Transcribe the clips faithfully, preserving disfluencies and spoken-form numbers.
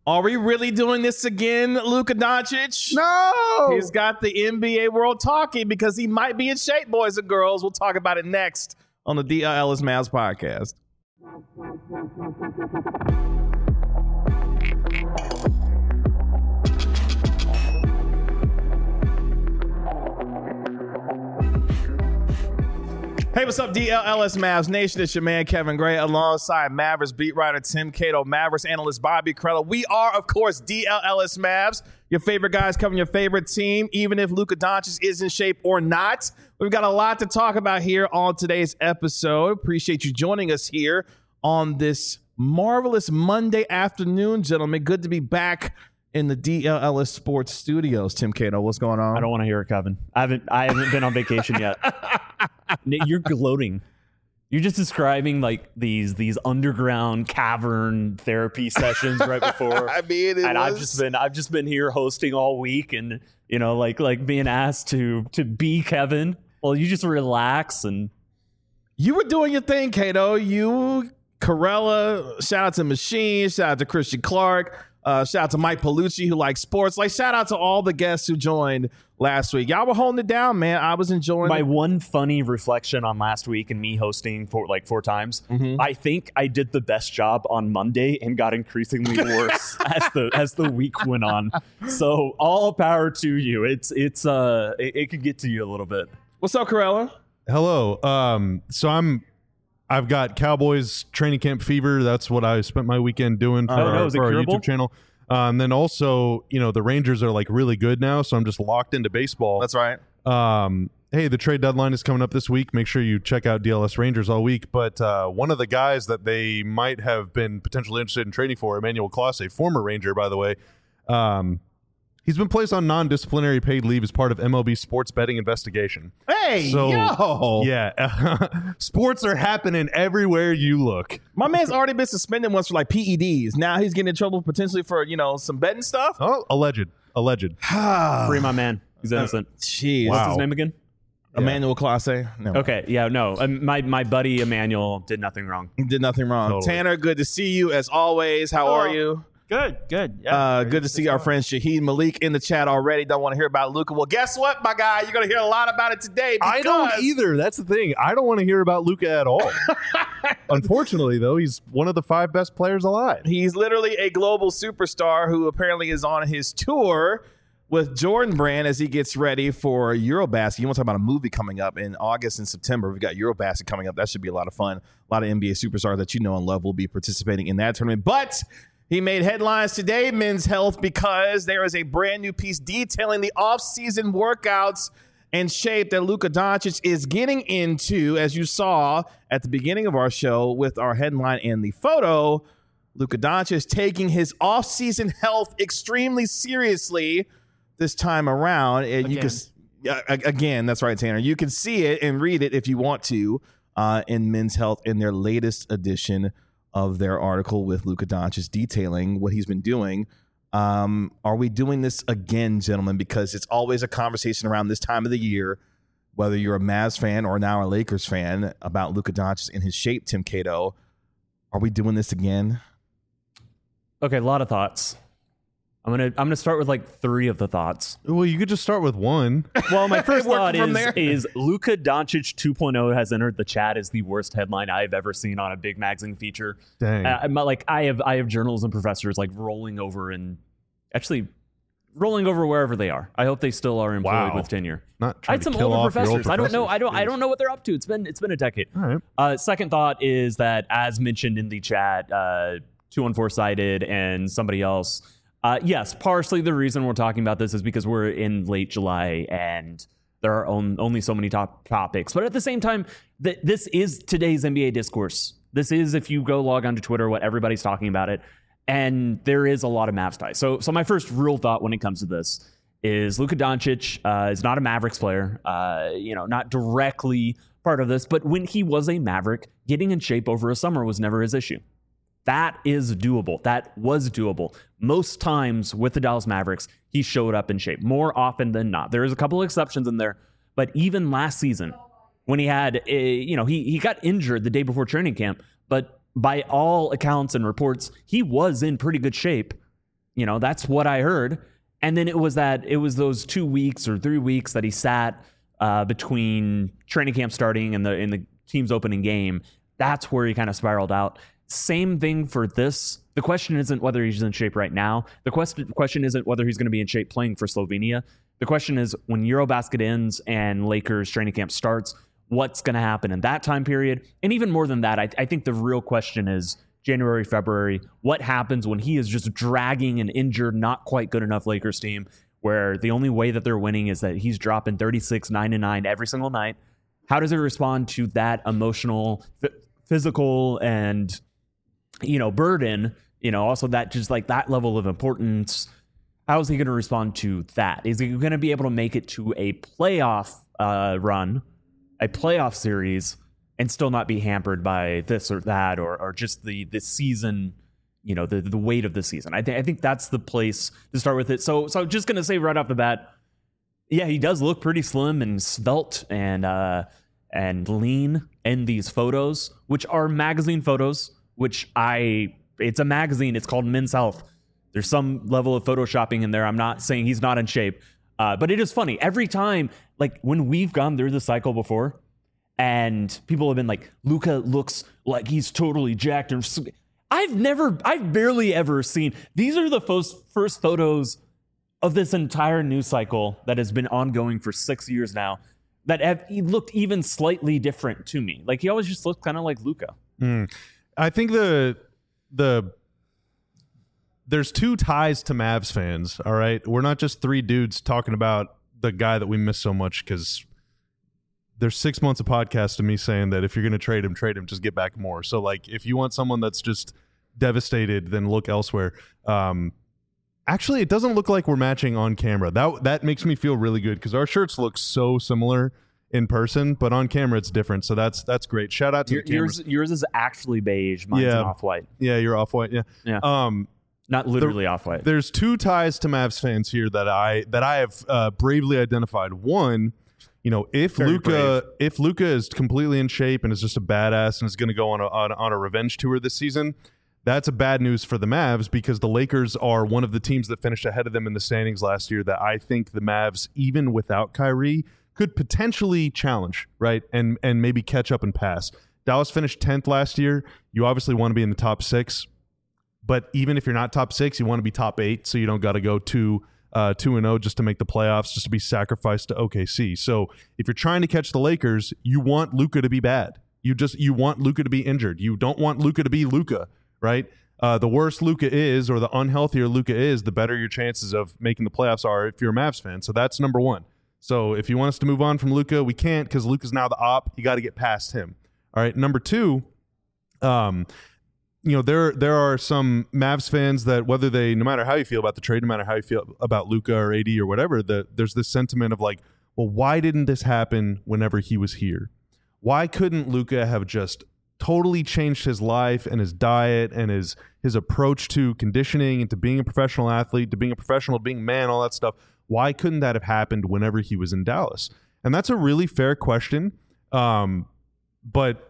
Are we really doing this again, Luka Doncic? No! He's got the N B A world talking because he might be in shape, boys and girls. We'll talk about it next on the D L Ellis Mavs podcast. Hey, what's up, D L Ellis Mavs Nation? It's your man, Kevin Gray, alongside Mavericks beat writer Tim Cato, Mavericks analyst Bobby Krella. We are, of course, D L Ellis Mavs, your favorite guys covering your favorite team, even if Luka Doncic is in shape or not. We've got a lot to talk about here on today's episode. Appreciate you joining us here on this marvelous Monday afternoon, gentlemen. Good to be back in the D L Ellis Sports Studios. Tim Cato, what's going on? I don't want to hear it, Kevin. I haven't I haven't been on vacation yet. You're gloating. You're just describing like these these underground cavern therapy sessions right before. I mean, it and was... I've just been I've just been here hosting all week, and you know, like like being asked to to be Kevin. Well, you just relax and you were doing your thing, Cato. You, Corella, shout out to Machine, shout out to Christian Clark. Uh, shout out to Mike Palucci, who likes sports. Like, shout out to all the guests who joined last week. Y'all were holding it down, man. I was enjoying my it. one funny reflection on last week and me hosting for like four times. Mm-hmm. I think I did the best job on Monday and got increasingly worse as the as the week went on. So all power to you. It's it's uh it, it could get to you a little bit. What's up, Corella? Hello. Um, so I'm. I've got Cowboys training camp fever. That's what I spent my weekend doing for, oh, no, our, is it for our curable? YouTube channel. Uh, and then also, you know, the Rangers are like really good now, so I'm just locked into baseball. That's right. Um, hey, the trade deadline is coming up this week. Make sure you check out D L S Rangers all week. But uh, one of the guys that they might have been potentially interested in trading for, Emmanuel Clase, former Ranger, by the way, um, he's been placed on non-disciplinary paid leave as part of M L B sports betting investigation. Hey, So, yo. Yeah. Sports are happening everywhere you look. My man's already been suspended once for like P E Ds. Now he's getting in trouble potentially for, you know, some betting stuff. Oh, alleged. Alleged. Free my man. He's innocent. Jeez. What's Wow. his name again? Emmanuel Clase. No. Okay, yeah, no. Um, my my buddy Emmanuel did nothing wrong. He did nothing wrong. Totally. Tanner, good to see you as always. How are you? Good, good. Yeah. Uh, good to see our friend Shaheed Malik in the chat already. Don't want to hear about Luka. Well, guess what, my guy? You're going to hear a lot about it today. I don't because- either. That's the thing. I don't want to hear about Luka at all. Unfortunately, though, he's one of the five best players alive. He's literally a global superstar who apparently is on his tour with Jordan Brand as he gets ready for Eurobasket. You want to talk about a movie coming up in August and September. We've got Eurobasket coming up. That should be a lot of fun. A lot of N B A superstars that you know and love will be participating in that tournament. But he made headlines today, Men's Health, because there is a brand new piece detailing the off-season workouts and shape that Luka Doncic is getting into, as you saw at the beginning of our show with our headline and the photo. Luka Doncic is taking his off-season health extremely seriously this time around. And you can, yeah, again, that's right, Tanner. You can see it and read it if you want to uh, in Men's Health in their latest edition of their article with Luka Doncic detailing what he's been doing. Um, are we doing this again, gentlemen? Because it's always a conversation around this time of the year, whether you're a Mavs fan or now a Lakers fan, about Luka Doncic in his shape, Tim Cato. Are we doing this again? Okay, a lot of thoughts. I'm gonna I'm gonna start with like three of the thoughts. Well, you could just start with one. Well, my first Work thought from is there. is Luka Doncic two point oh has entered the chat as the worst headline I've ever seen on a big magazine feature. Dang. Uh, I'm not- like I have I have journalism professors like rolling over and actually rolling over wherever they are. I hope they still are employed Wow. with tenure. Not I trying had some to kill older off your old professors. I don't know. I don't. I professors. don't know what they're up to. It's been it's been a decade. All right. Uh, second thought is that, as mentioned in the chat, uh, two one four cited and somebody else. Uh, yes, partially the reason we're talking about this is because we're in late July and there are on, only so many top topics. But at the same time, th- this is today's N B A discourse. This is, if you go log onto Twitter, what everybody's talking about it. And there is a lot of Mavs ties. So, so my first real thought when it comes to this is Luka Doncic uh, is not a Mavericks player, uh, you know, not directly part of this. But when he was a Maverick, getting in shape over a summer was never his issue. That is doable. That was doable. Most times with the Dallas Mavericks, he showed up in shape more often than not. There is a couple of exceptions in there, but even last season when he had, a, you know, he he got injured the day before training camp, but by all accounts and reports, he was in pretty good shape. You know, that's what I heard. And then it was that it was those two weeks or three weeks that he sat uh, between training camp starting and the in the team's opening game. That's where he kind of spiraled out. Same thing for this. The question isn't whether he's in shape right now. The question question isn't whether he's going to be in shape playing for Slovenia. The question is when Eurobasket ends and Lakers training camp starts, what's going to happen in that time period? And even more than that, I, I think the real question is January, February, what happens when he is just dragging an injured, not quite good enough Lakers team where the only way that they're winning is that he's dropping thirty-six, nine and nine every single night. How does it respond to that emotional, f- physical, and, you know, burden? You know, also that just like that level of importance. How is he going to respond to that? Is he going to be able to make it to a playoff uh, run, a playoff series, and still not be hampered by this or that, or or just the the season, you know, the the weight of the season? I think I think that's the place to start with it. So so just going to say right off the bat, yeah, he does look pretty slim and svelte and uh, and lean in these photos, which are magazine photos. Which I, it's a magazine. It's called Men's Health. There's some level of photoshopping in there. I'm not saying he's not in shape, uh, but it is funny every time. Like when we've gone through the cycle before, and people have been like, Luka looks like he's totally jacked. Or I've never, I've barely ever seen. These are the first first photos of this entire news cycle that has been ongoing for six years now that have he looked even slightly different to me. Like he always just looked kind of like Luka. Mm. I think the the there's two ties to Mavs fans. All right, we're not just three dudes talking about the guy that we miss so much, because there's six months of podcast of me saying that if you're going to trade him, trade him, just get back more. So like, if you want someone that's just devastated, then look elsewhere. Um, actually, it doesn't look like we're matching on camera. That that makes me feel really good because our shirts look so similar in person, but on camera it's different. So that's that's great. Shout out to Your, the cameras. yours. Yours is actually beige. Mine's Yeah. an off-white. Yeah, you're off white. Yeah. Yeah. Um, Not literally off-white. There's two ties to Mavs fans here that I that I have uh, bravely identified. One, you know, if Very Luka brave. if Luka is completely in shape and is just a badass and is going to go on a, on, on a revenge tour this season, that's a bad news for the Mavs because the Lakers are one of the teams that finished ahead of them in the standings last year that I think the Mavs, even without Kyrie, could potentially challenge, right? And and maybe catch up and pass. Dallas finished tenth last year. You obviously want to be in the top six. But even if you're not top six, you want to be top eight, so you don't got to go two, uh, two and zero just to make the playoffs, just to be sacrificed to O K C. So if you're trying to catch the Lakers, you want Luka to be bad. You just you want Luka to be injured. You don't want Luka to be Luka, right? Uh, the worse Luka is, or the unhealthier Luka is, the better your chances of making the playoffs are if you're a Mavs fan. So that's number one. So if you want us to move on from Luka, we can't because Luka's now the op. You got to get past him. All right. Number two. Um. You know, there there are some Mavs fans that whether they, no matter how you feel about the trade, no matter how you feel about Luka or A D or whatever, that there's this sentiment of like, well, why didn't this happen whenever he was here? Why couldn't Luka have just totally changed his life and his diet and his his approach to conditioning and to being a professional athlete, to being a professional, being a man, all that stuff? Why couldn't that have happened whenever he was in Dallas? And that's a really fair question. Um, but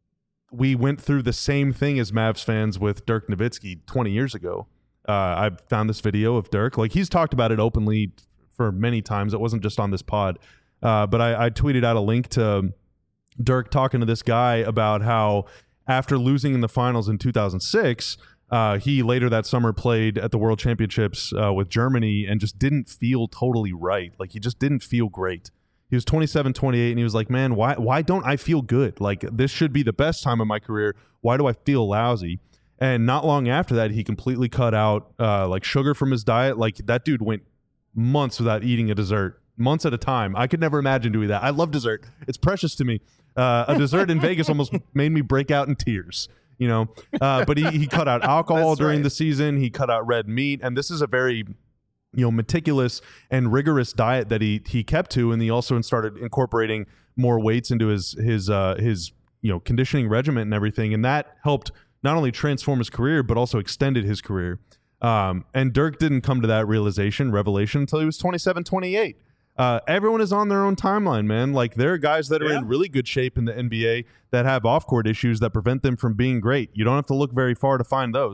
we went through the same thing as Mavs fans with Dirk Nowitzki twenty years ago. Uh, I found this video of Dirk. Like, he's talked about it openly for many times. It wasn't just on this pod. Uh, but I, I tweeted out a link to Dirk talking to this guy about how after losing in the finals in two thousand six, uh, he later that summer played at the World Championships uh, with Germany and just didn't feel totally right. Like, he just didn't feel great. He was twenty-seven, twenty-eight, and he was like, man, why why don't I feel good? Like, this should be the best time of my career. Why do I feel lousy? And not long after that, he completely cut out uh, like sugar from his diet. Like, that dude went months without eating a dessert, months at a time. I could never imagine doing that. I love dessert. It's precious to me. Uh, a dessert in Vegas almost made me break out in tears, you know. Uh, but he, he cut out alcohol That's during right. the season. He cut out red meat. And this is a very, you know, meticulous and rigorous diet that he he kept to, and he also started incorporating more weights into his his uh, his you know conditioning regimen and everything, and that helped not only transform his career but also extended his career. Um, and Dirk didn't come to that realization, revelation, until he was twenty-seven, twenty-eight. Uh, everyone is on their own timeline, man. Like, there are guys that are Yeah. in really good shape in the N B A that have off-court issues that prevent them from being great. You don't have to look very far to find those.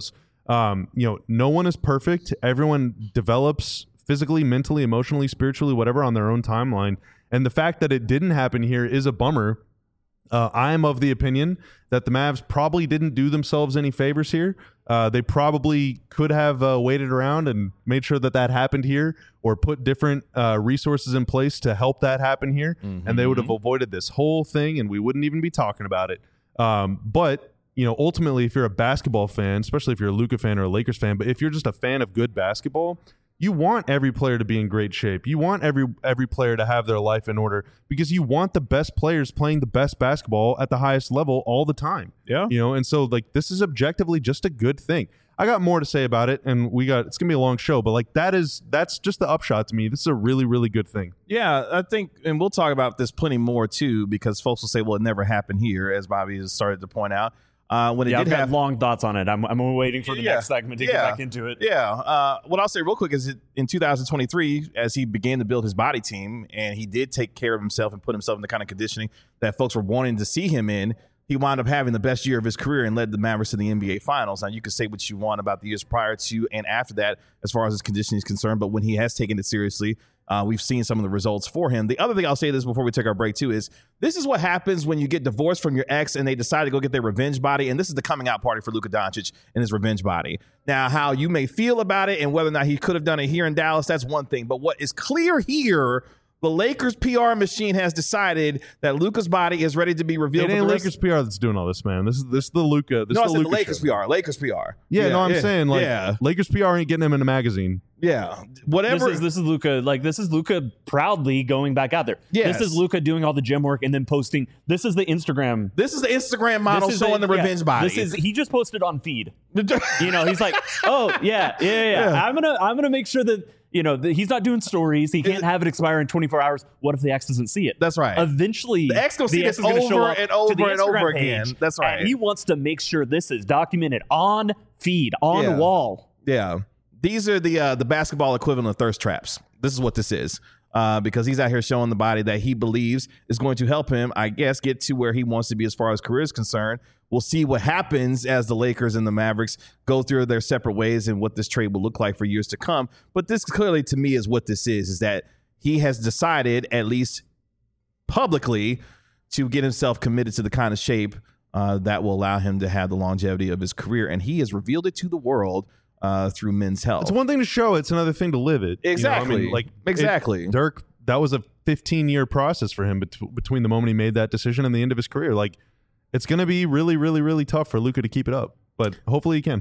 Um, you know, no one is perfect. Everyone develops physically, mentally, emotionally, spiritually, whatever, on their own timeline. And the fact that it didn't happen here is a bummer. Uh, I am of the opinion that the Mavs probably didn't do themselves any favors here. Uh, they probably could have uh, waited around and made sure that that happened here, or put different uh, resources in place to help that happen here, mm-hmm. and they would have avoided this whole thing, and we wouldn't even be talking about it. Um, but you know, ultimately, if you're a basketball fan, especially if you're a Luka fan or a Lakers fan, but if you're just a fan of good basketball, you want every player to be in great shape. You want every every player to have their life in order, because you want the best players playing the best basketball at the highest level all the time. Yeah. You know, and so like this is objectively just a good thing. I got more to say about it, and we got it's gonna be a long show, but like that is that's just the upshot to me. This is a really, really good thing. Yeah, I think, and we'll talk about this plenty more too, because folks will say, well, it never happened here, as Bobby has started to point out. Uh, when it yeah, did I've got have long thoughts on it. I'm, I'm waiting for the yeah, next segment to yeah, get back into it. Yeah. Uh, what I'll say real quick is that in two thousand twenty-three, as he began to build his body team, and he did take care of himself and put himself in the kind of conditioning that folks were wanting to see him in, he wound up having the best year of his career and led the Mavericks to the N B A Finals. Now, you can say what you want about the years prior to and after that as far as his conditioning is concerned, but when he has taken it seriously, Uh, we've seen some of the results for him. The other thing I'll say this before we take our break too is this is what happens when you get divorced from your ex and they decide to go get their revenge body. And this is the coming out party for Luka Doncic and his revenge body. Now, how you may feel about it and whether or not he could have done it here in Dallas, that's one thing. But what is clear here, the Lakers P R machine has decided that Luka's body is ready to be revealed. It ain't for the Lakers P R that's doing all this, man. This is this is the Luka. This no, is I the said Luka the Lakers show. P R. Lakers P R. Yeah, yeah, no, I'm yeah, saying like yeah. Lakers P R ain't getting him in a magazine. Yeah, whatever. This is this is Luka. Like this is Luka proudly going back out there. Yes. This is Luka doing all the gym work and then posting. This is the Instagram. This is the Instagram model This is showing the, yeah, revenge body. This is he just posted on feed. You know, he's like, oh yeah, yeah, yeah, yeah. Yeah. I'm gonna I'm gonna make sure that you know that he's not doing stories. He can't have it expire in twenty-four hours. What if the ex doesn't see it? That's right. Eventually, The ex gonna see this is gonna show over up and to over the and over Instagram again. page, That's right. And he wants to make sure this is documented on feed, on Yeah. wall. Yeah. These are the uh, the basketball equivalent of thirst traps. This is what this is. Uh, because he's out here showing the body that he believes is going to help him, I guess, get to where he wants to be as far as career is concerned. We'll see what happens as the Lakers and the Mavericks go through their separate ways and what this trade will look like for years to come. But this clearly, to me, is what this is, is that he has decided, at least publicly, to get himself committed to the kind of shape uh, that will allow him to have the longevity of his career. And he has revealed it to the world uh, through Men's Health. It's one thing to show it, it's another thing to live it. Exactly. You know, I mean, like exactly. It, Dirk, that was a fifteen year process for him bet- between the moment he made that decision and the end of his career. Like, it's going to be really, really, really tough for Luka to keep it up, but hopefully he can.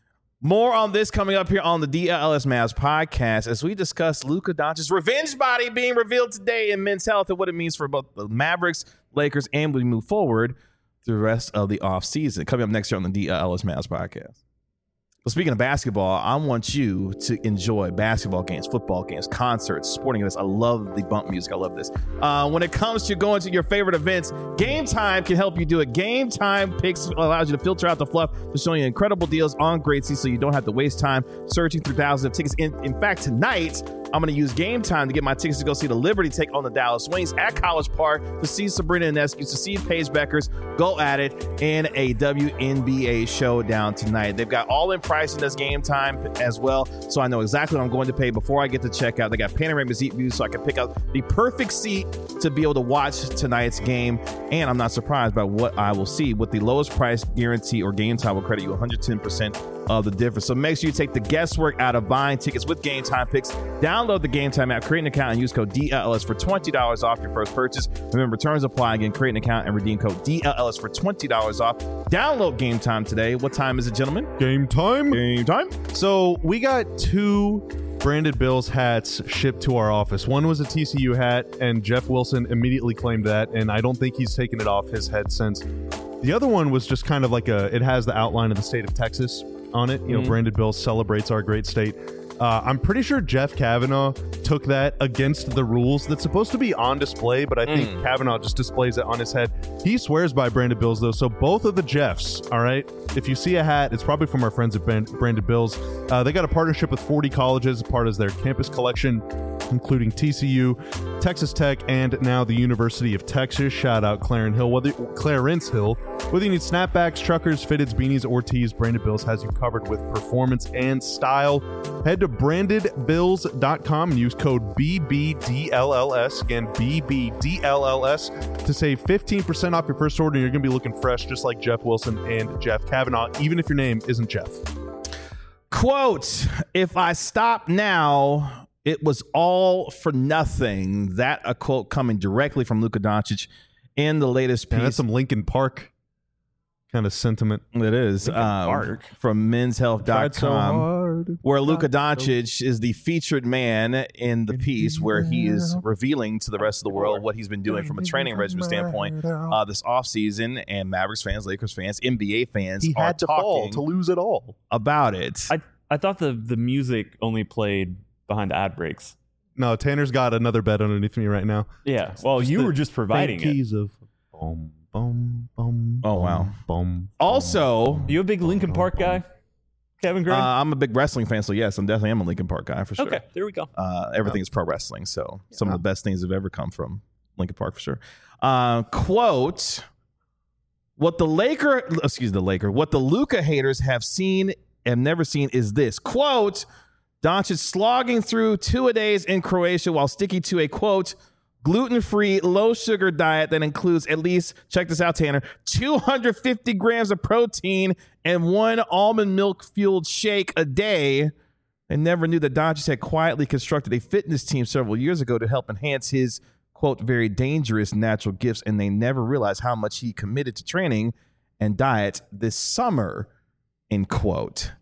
More on this coming up here on the D L S Mavs podcast as we discuss Luka Doncic's revenge body being revealed today in Men's Health and what it means for both the Mavericks, Lakers, and we move forward through the rest of the offseason. Coming up next year on the D L S Mavs podcast. Well, speaking of basketball, I want you to enjoy basketball games, football games, concerts, sporting events. I love the bump music. I love this. Uh, when it comes to going to your favorite events, Game Time can help you do it. Game Time Picks allows you to filter out the fluff to show you incredible deals on great seats so you don't have to waste time searching through thousands of tickets. In, in fact, tonight, I'm going to use Game Time to get my tickets to go see the Liberty take on the Dallas Wings at College Park, to see Sabrina Ionescu, to see Paige Beckers go at it in a W N B A showdown tonight. They've got all in pricing as Game Time as well, so I know exactly what I'm going to pay before I get to checkout. They got panoramic seat views so I can pick out the perfect seat to be able to watch tonight's game, and I'm not surprised by what I will see. With the lowest price guarantee, or Game Time will credit you one hundred ten percent of the difference. So make sure you take the guesswork out of buying tickets with Game Time Picks. Download the Game Time app, create an account, and use code D L S for twenty dollars off your first purchase. Remember, returns apply. Again, create an account and redeem code D L S for twenty dollars off. Download Game Time today. What time is it, gentlemen? Game time. Game time. So we got two branded Bills hats shipped to our office. One was a T C U hat, and Jeff Wilson immediately claimed that, and I don't think he's taken it off his head since. The other one was just kind of like a, it has the outline of the state of Texas on it. You know, Mm-hmm. Branded Bills celebrates our great state. Uh, I'm pretty sure Jeff Kavanaugh took that against the rules. That's supposed to be on display, but I think Mm. Kavanaugh just displays it on his head. He swears by Branded Bills, though. So both of the Jeffs, all right, if you see a hat, it's probably from our friends at Brand- Branded Bills. Uh, they got a partnership with forty colleges, part of their campus collection. including T C U, Texas Tech, and now the University of Texas. Shout out Clarence Hill. Whether, Clarence Hill. Whether you need snapbacks, truckers, fitteds, beanies, or tees, Branded Bills has you covered with performance and style. Head to branded bills dot com and use code B B D L L S, again, B B D L L S, to save fifteen percent off your first order. You're going to be looking fresh, just like Jeff Wilson and Jeff Kavanaugh, even if your name isn't Jeff. Quote, if I stop now, it was all for nothing. That a quote coming directly from Luka Doncic in the latest piece. Yeah, that's some Linkin Park kind of sentiment. It is um, from men's health dot com, so where Luka Doncic so. is the featured man in the piece, where he is revealing to the rest of the world what he's been doing from a training regimen standpoint uh, this offseason. And Mavericks fans, Lakers fans, N B A fans he are had to talking fall to lose it all about it. I, I thought the, the music only played behind the ad breaks. No, Tanner's got another bed underneath me right now. Yeah, well, just you were just providing it. Keys of boom. Boom, boom, oh wow! Boom. Also, you a big Linkin Park guy, Kevin Green? Uh, I'm a big wrestling fan, so yes, I'm definitely am a Linkin Park guy for sure. Okay, there we go. Uh, everything is pro wrestling, so some of the best things have ever come from Linkin Park for sure. Uh, quote: What the Laker, excuse the Laker, what the Luka haters have seen and never seen is this. Quote: Doncic slogging through two-a-days in Croatia while sticking to a quote gluten-free, low-sugar diet that includes at least, check this out, Tanner, two hundred fifty grams of protein and one almond milk-fueled shake a day. I never knew that Doncic had quietly constructed a fitness team several years ago to help enhance his, quote, very dangerous natural gifts, and they never realized how much he committed to training and diet this summer, end quote.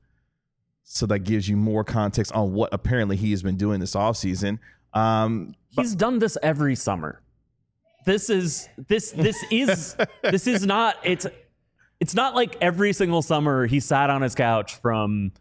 So that gives you more context on what apparently he has been doing this offseason. Um, He's done this every summer. This is this this is this is not it's it's not like every single summer he sat on his couch from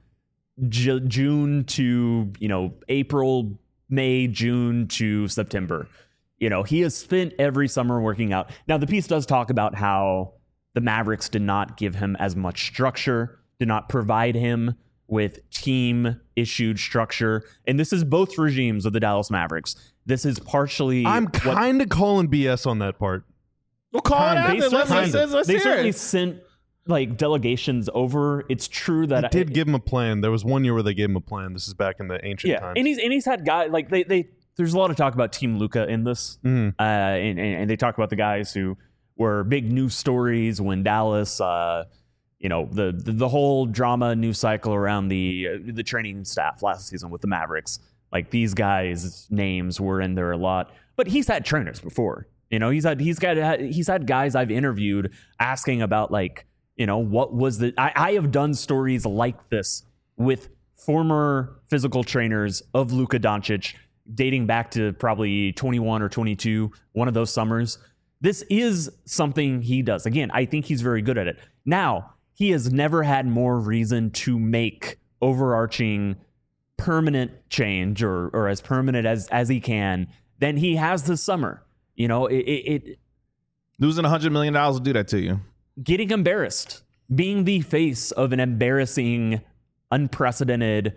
J- June to, you know, April, May, June to September. You know, he has spent every summer working out. Now, the piece does talk about how the Mavericks did not give him as much structure, did not provide him with team-issued structure. And this is both regimes of the Dallas Mavericks. This is partially... I'm kind of calling B S on that part. We'll call it out. They Let's, let's, certainly, let's, let's they hear certainly it. sent like delegations over. It's true that... I did I, give him a plan. There was one year where they gave him a plan. This is back in the ancient yeah, times. and he's, and he's had guys... Like, they, they, there's a lot of talk about Team Luka in this. Mm. Uh, and, and, and they talk about the guys who were big news stories when Dallas... Uh, You know, the, the the whole drama news cycle around the uh, the training staff last season with the Mavericks. Like, these guys' names were in there a lot, but he's had trainers before. You know, he's had he's got he's had guys I've interviewed asking about, like, you know, what was the I, I have done stories like this with former physical trainers of Luka Doncic dating back to probably twenty-one or twenty-two, one of those summers. This is something he does. Again, I think he's very good at it. Now, he has never had more reason to make overarching permanent change or or as permanent as as he can than he has this summer. You know, it, it, it losing one hundred million dollars will do that to you. Getting embarrassed, being the face of an embarrassing, unprecedented,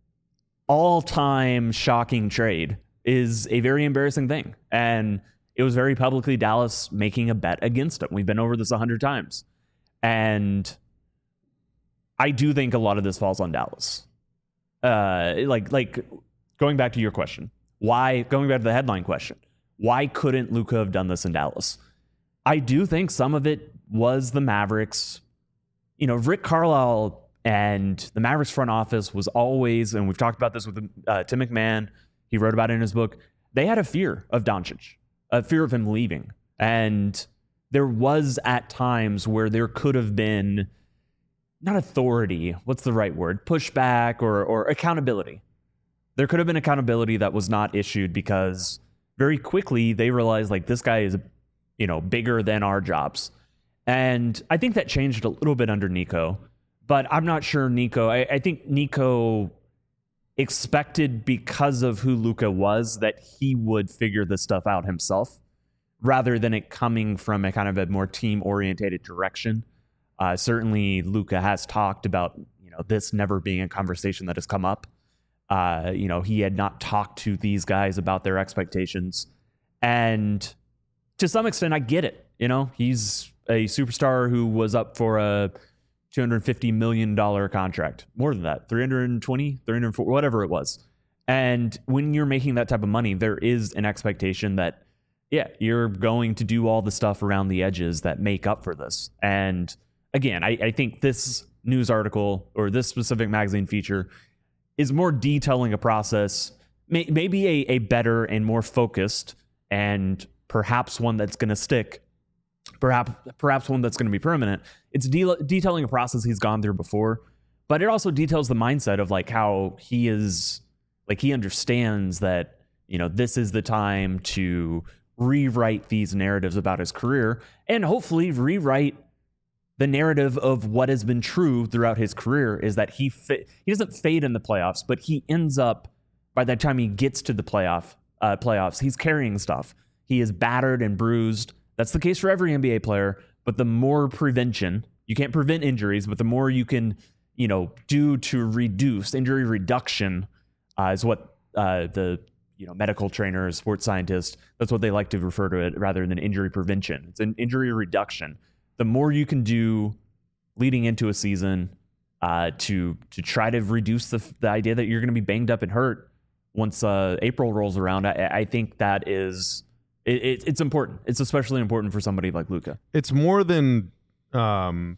all-time shocking trade is a very embarrassing thing. And it was very publicly Dallas making a bet against him. We've been over this a hundred times. And I do think a lot of this falls on Dallas. Uh, like, like going back to your question, why, going back to the headline question, why couldn't Luka have done this in Dallas? I do think some of it was the Mavericks. You know, Rick Carlisle and the Mavericks front office was always, and we've talked about this with uh, Tim McMahon, he wrote about it in his book, they had a fear of Doncic, a fear of him leaving. And there was at times where there could have been, not authority, what's the right word? Pushback or or accountability. There could have been accountability that was not issued because very quickly they realized, like, this guy is, you know, bigger than our jobs. And I think that changed a little bit under Nico, but I'm not sure Nico, I, I think Nico expected, because of who Luka was, that he would figure this stuff out himself rather than it coming from a kind of a more team-orientated direction. Uh, certainly Luka has talked about, you know, this never being a conversation that has come up. Uh, you know, he had not talked to these guys about their expectations. And to some extent, I get it. You know, he's a superstar who was up for a two hundred fifty million dollars contract. More than that, three hundred twenty, three hundred forty, whatever it was. And when you're making that type of money, there is an expectation that, yeah, you're going to do all the stuff around the edges that make up for this. And again, I, I think this news article or this specific magazine feature is more detailing a process, may, maybe a, a better and more focused and perhaps one that's going to stick, perhaps perhaps one that's going to be permanent. It's de- detailing a process he's gone through before, but it also details the mindset of like how he is, like he understands that, you know, this is the time to rewrite these narratives about his career and hopefully rewrite the narrative of what has been true throughout his career is that he fa- he doesn't fade in the playoffs, but he ends up, by the time he gets to the playoff uh, playoffs, he's carrying stuff. He is battered and bruised. That's the case for every N B A player. But the more prevention, you can't prevent injuries, but the more you can, you know, do to reduce injury reduction uh, is what uh, the you know medical trainers, sports scientists, that's what they like to refer to it rather than injury prevention. It's an injury reduction. The more you can do leading into a season uh, to to try to reduce the, the idea that you're going to be banged up and hurt once uh, April rolls around, I, I think that is it, it, it's important. It's especially important for somebody like Luka. It's more than um,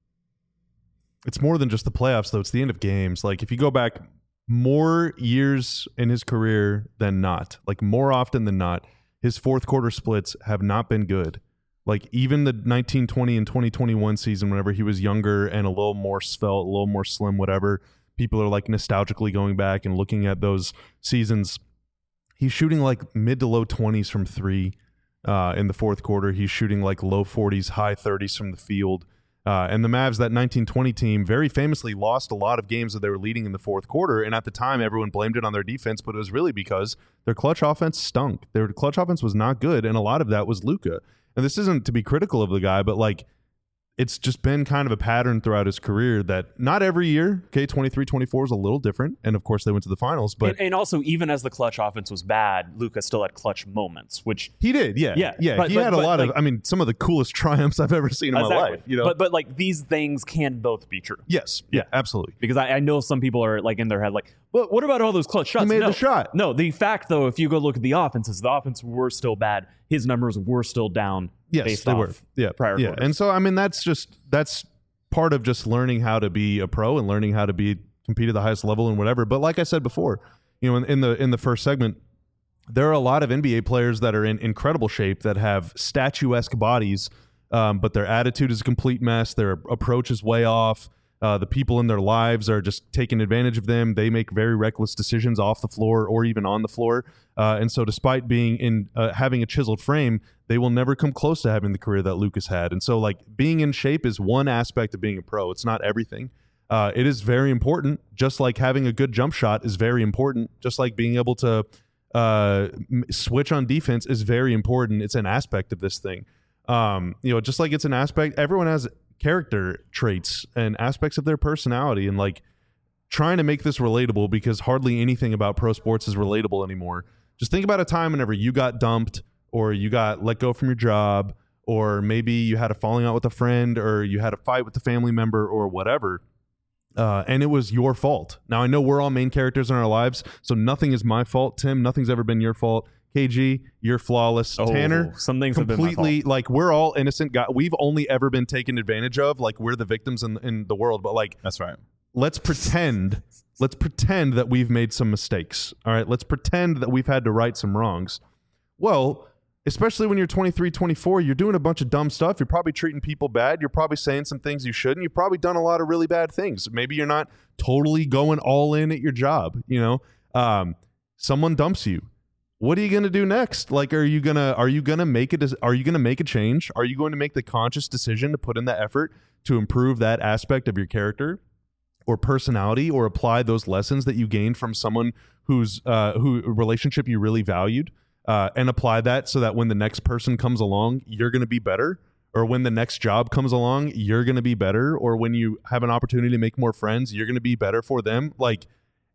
it's more than just the playoffs, though. It's the end of games. Like if you go back more years in his career than not, like more often than not, his fourth quarter splits have not been good. Like even the nineteen twenty and twenty twenty-one season, whenever he was younger and a little more svelte, a little more slim, whatever, people are like nostalgically going back and looking at those seasons. He's shooting like mid to low twenties from three uh, in the fourth quarter. He's shooting like low forties, high thirties from the field. Uh, and the Mavs, that nineteen twenty team, very famously lost a lot of games that they were leading in the fourth quarter. And at the time, everyone blamed it on their defense, but it was really because their clutch offense stunk. Their clutch offense was not good, and a lot of that was Luka. And this isn't to be critical of the guy, but like it's just been kind of a pattern throughout his career that not every year, okay, twenty-three twenty-four is a little different. And of course, they went to the finals. But and, and also, even as the clutch offense was bad, Luka still had clutch moments, which he did. Yeah. Yeah. Yeah. But, he but, had a but, lot like, of, I mean, some of the coolest triumphs I've ever seen in exactly. my life. You know? But, but like these things can both be true. Yes. Yeah, Yeah. absolutely. Because I, I know some people are like in their head, like, well, what about all those clutch shots? He made no. the shot. No, the fact, though, if you go look at the offenses, the offense were still bad. His numbers were still down. Yes, based they off were. Yeah. prior Yeah. quarters. And so, I mean, that's just, that's part of just learning how to be a pro and learning how to be compete at the highest level and whatever. But like I said before, you know, in, in the in the first segment, there are a lot of N B A players that are in incredible shape that have statuesque bodies, um, but their attitude is a complete mess. Their approach is way off. Uh, the people in their lives are just taking advantage of them. They make very reckless decisions off the floor or even on the floor. Uh, and so despite being in uh, having a chiseled frame, they will never come close to having the career that Lucas had. And so like being in shape is one aspect of being a pro. It's not everything. Uh, it is very important, just like having a good jump shot is very important, just like being able to uh, m- switch on defense is very important. It's an aspect of this thing. Um, you know, just like it's an aspect, everyone has character traits and aspects of their personality, and like trying to make this relatable because hardly anything about pro sports is relatable anymore. Just think about a time whenever you got dumped or you got let go from your job, or maybe you had a falling out with a friend, or you had a fight with a family member or whatever. Uh, and it was your fault. Now, I know we're all main characters in our lives, so nothing is my fault. Tim, nothing's ever been your fault. K G, you're flawless. Oh, Tanner, some things have been my completely, fault. like, we're all innocent guys. We've only ever been taken advantage of. Like, we're the victims in, in the world. But, like, That's right. let's pretend, let's pretend that we've made some mistakes. All right? Let's pretend that we've had to right some wrongs. Well, especially when you're twenty-three, twenty-four, you're doing a bunch of dumb stuff. You're probably treating people bad. You're probably saying some things you shouldn't. You've probably done a lot of really bad things. Maybe you're not totally going all in at your job. You know, um, someone dumps you. What are you going to do next? Like, are you going to, are you going to make it? Are you going to make a change? Are you going to make the conscious decision to put in the effort to improve that aspect of your character or personality, or apply those lessons that you gained from someone whose, uh, who relationship you really valued? Uh, and apply that so that when the next person comes along, you're going to be better, or when the next job comes along, you're going to be better, or when you have an opportunity to make more friends, you're going to be better for them. Like,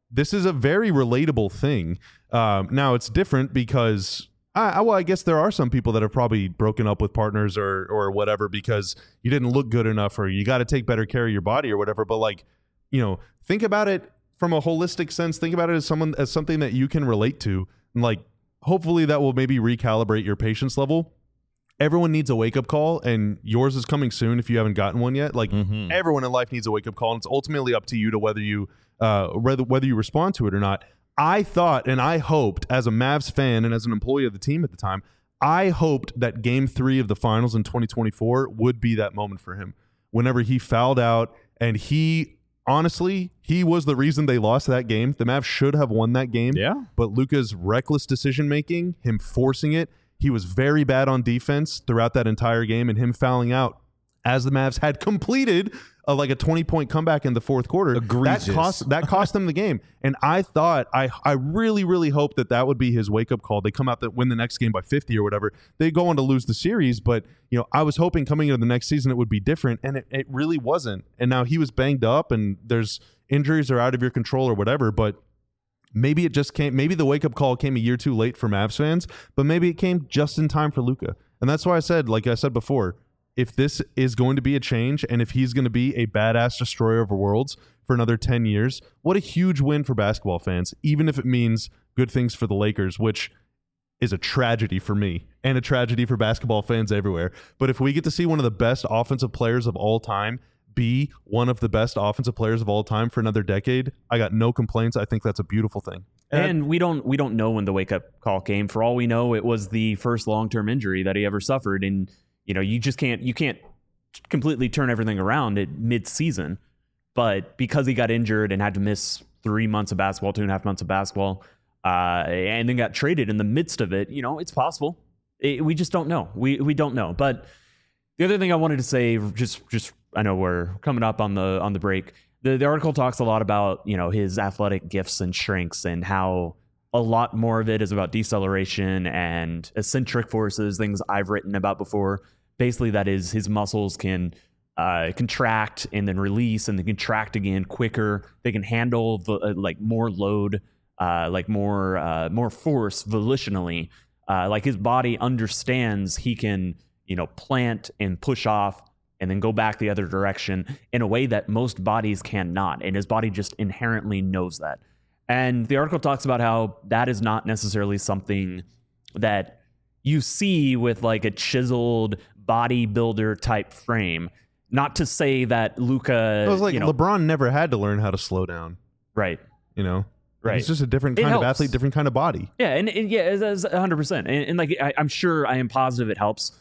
this is a very relatable thing. Um, now it's different because I, I, well, I guess there are some people that have probably broken up with partners or or whatever because you didn't look good enough or you got to take better care of your body or whatever. But like, you know, think about it from a holistic sense. Think about it as someone as something that you can relate to. And like, hopefully that will maybe recalibrate your patience level. Everyone needs a wake-up call, and yours is coming soon if you haven't gotten one yet. Like, mm-hmm. everyone in life needs a wake-up call, and it's ultimately up to you to whether you uh, whether, whether you respond to it or not. I thought and I hoped, as a Mavs fan and as an employee of the team at the time, I hoped that Game three of the Finals in twenty twenty-four would be that moment for him. Whenever he fouled out, and he, honestly, he was the reason they lost that game. The Mavs should have won that game. Yeah. But Luka's reckless decision-making, him forcing it, he was very bad on defense throughout that entire game, and him fouling out as the Mavs had completed a, like a twenty-point comeback in the fourth quarter. Egregious. That cost that cost them the game. And I thought, I I really, really hoped that that would be his wake-up call. They come out that win the next game by fifty or whatever. They go on to lose the series, but you know, I was hoping coming into the next season it would be different, and it, it really wasn't. And now he was banged up, and there's injuries are out of your control or whatever, but maybe it just came, maybe the wake-up call came a year too late for Mavs fans, but maybe it came just in time for Luka. And that's why I said, like I said before, if this is going to be a change and if he's going to be a badass destroyer of worlds for another ten years, what a huge win for basketball fans, even if it means good things for the Lakers, which is a tragedy for me and a tragedy for basketball fans everywhere. But if we get to see one of the best offensive players of all time be one of the best offensive players of all time for another decade, I got no complaints. I think that's a beautiful thing. And, and we don't we don't know when the wake up call came. For all we know, it was the first long term injury that he ever suffered, and you know you just can't you can't completely turn everything around at mid season. But because he got injured and had to miss three months of basketball, two and a half months of basketball, uh, and then got traded in the midst of it, you know, it's possible. It, we just don't know. We we don't know. But the other thing I wanted to say, just just I know we're coming up on the on the break. The the article talks a lot about, you know, his athletic gifts and strengths and how a lot more of it is about deceleration and eccentric forces, things I've written about before. Basically, that is his muscles can uh, contract and then release and then contract again quicker. They can handle the, uh, like more load, uh, like more uh, more force volitionally. Uh, like his body understands he can, you know, plant and push off and then go back the other direction in a way that most bodies cannot. And his body just inherently knows that. And the article talks about how that is not necessarily something that you see with like a chiseled bodybuilder type frame. Not to say that Luka... It was like you know, LeBron never had to learn how to slow down. Right. You know? Right. He's just a different It kind of helps. athlete, different kind of body. Yeah, and, and yeah, it's, it's one hundred percent. And, and like, I, I'm sure, I am positive it helps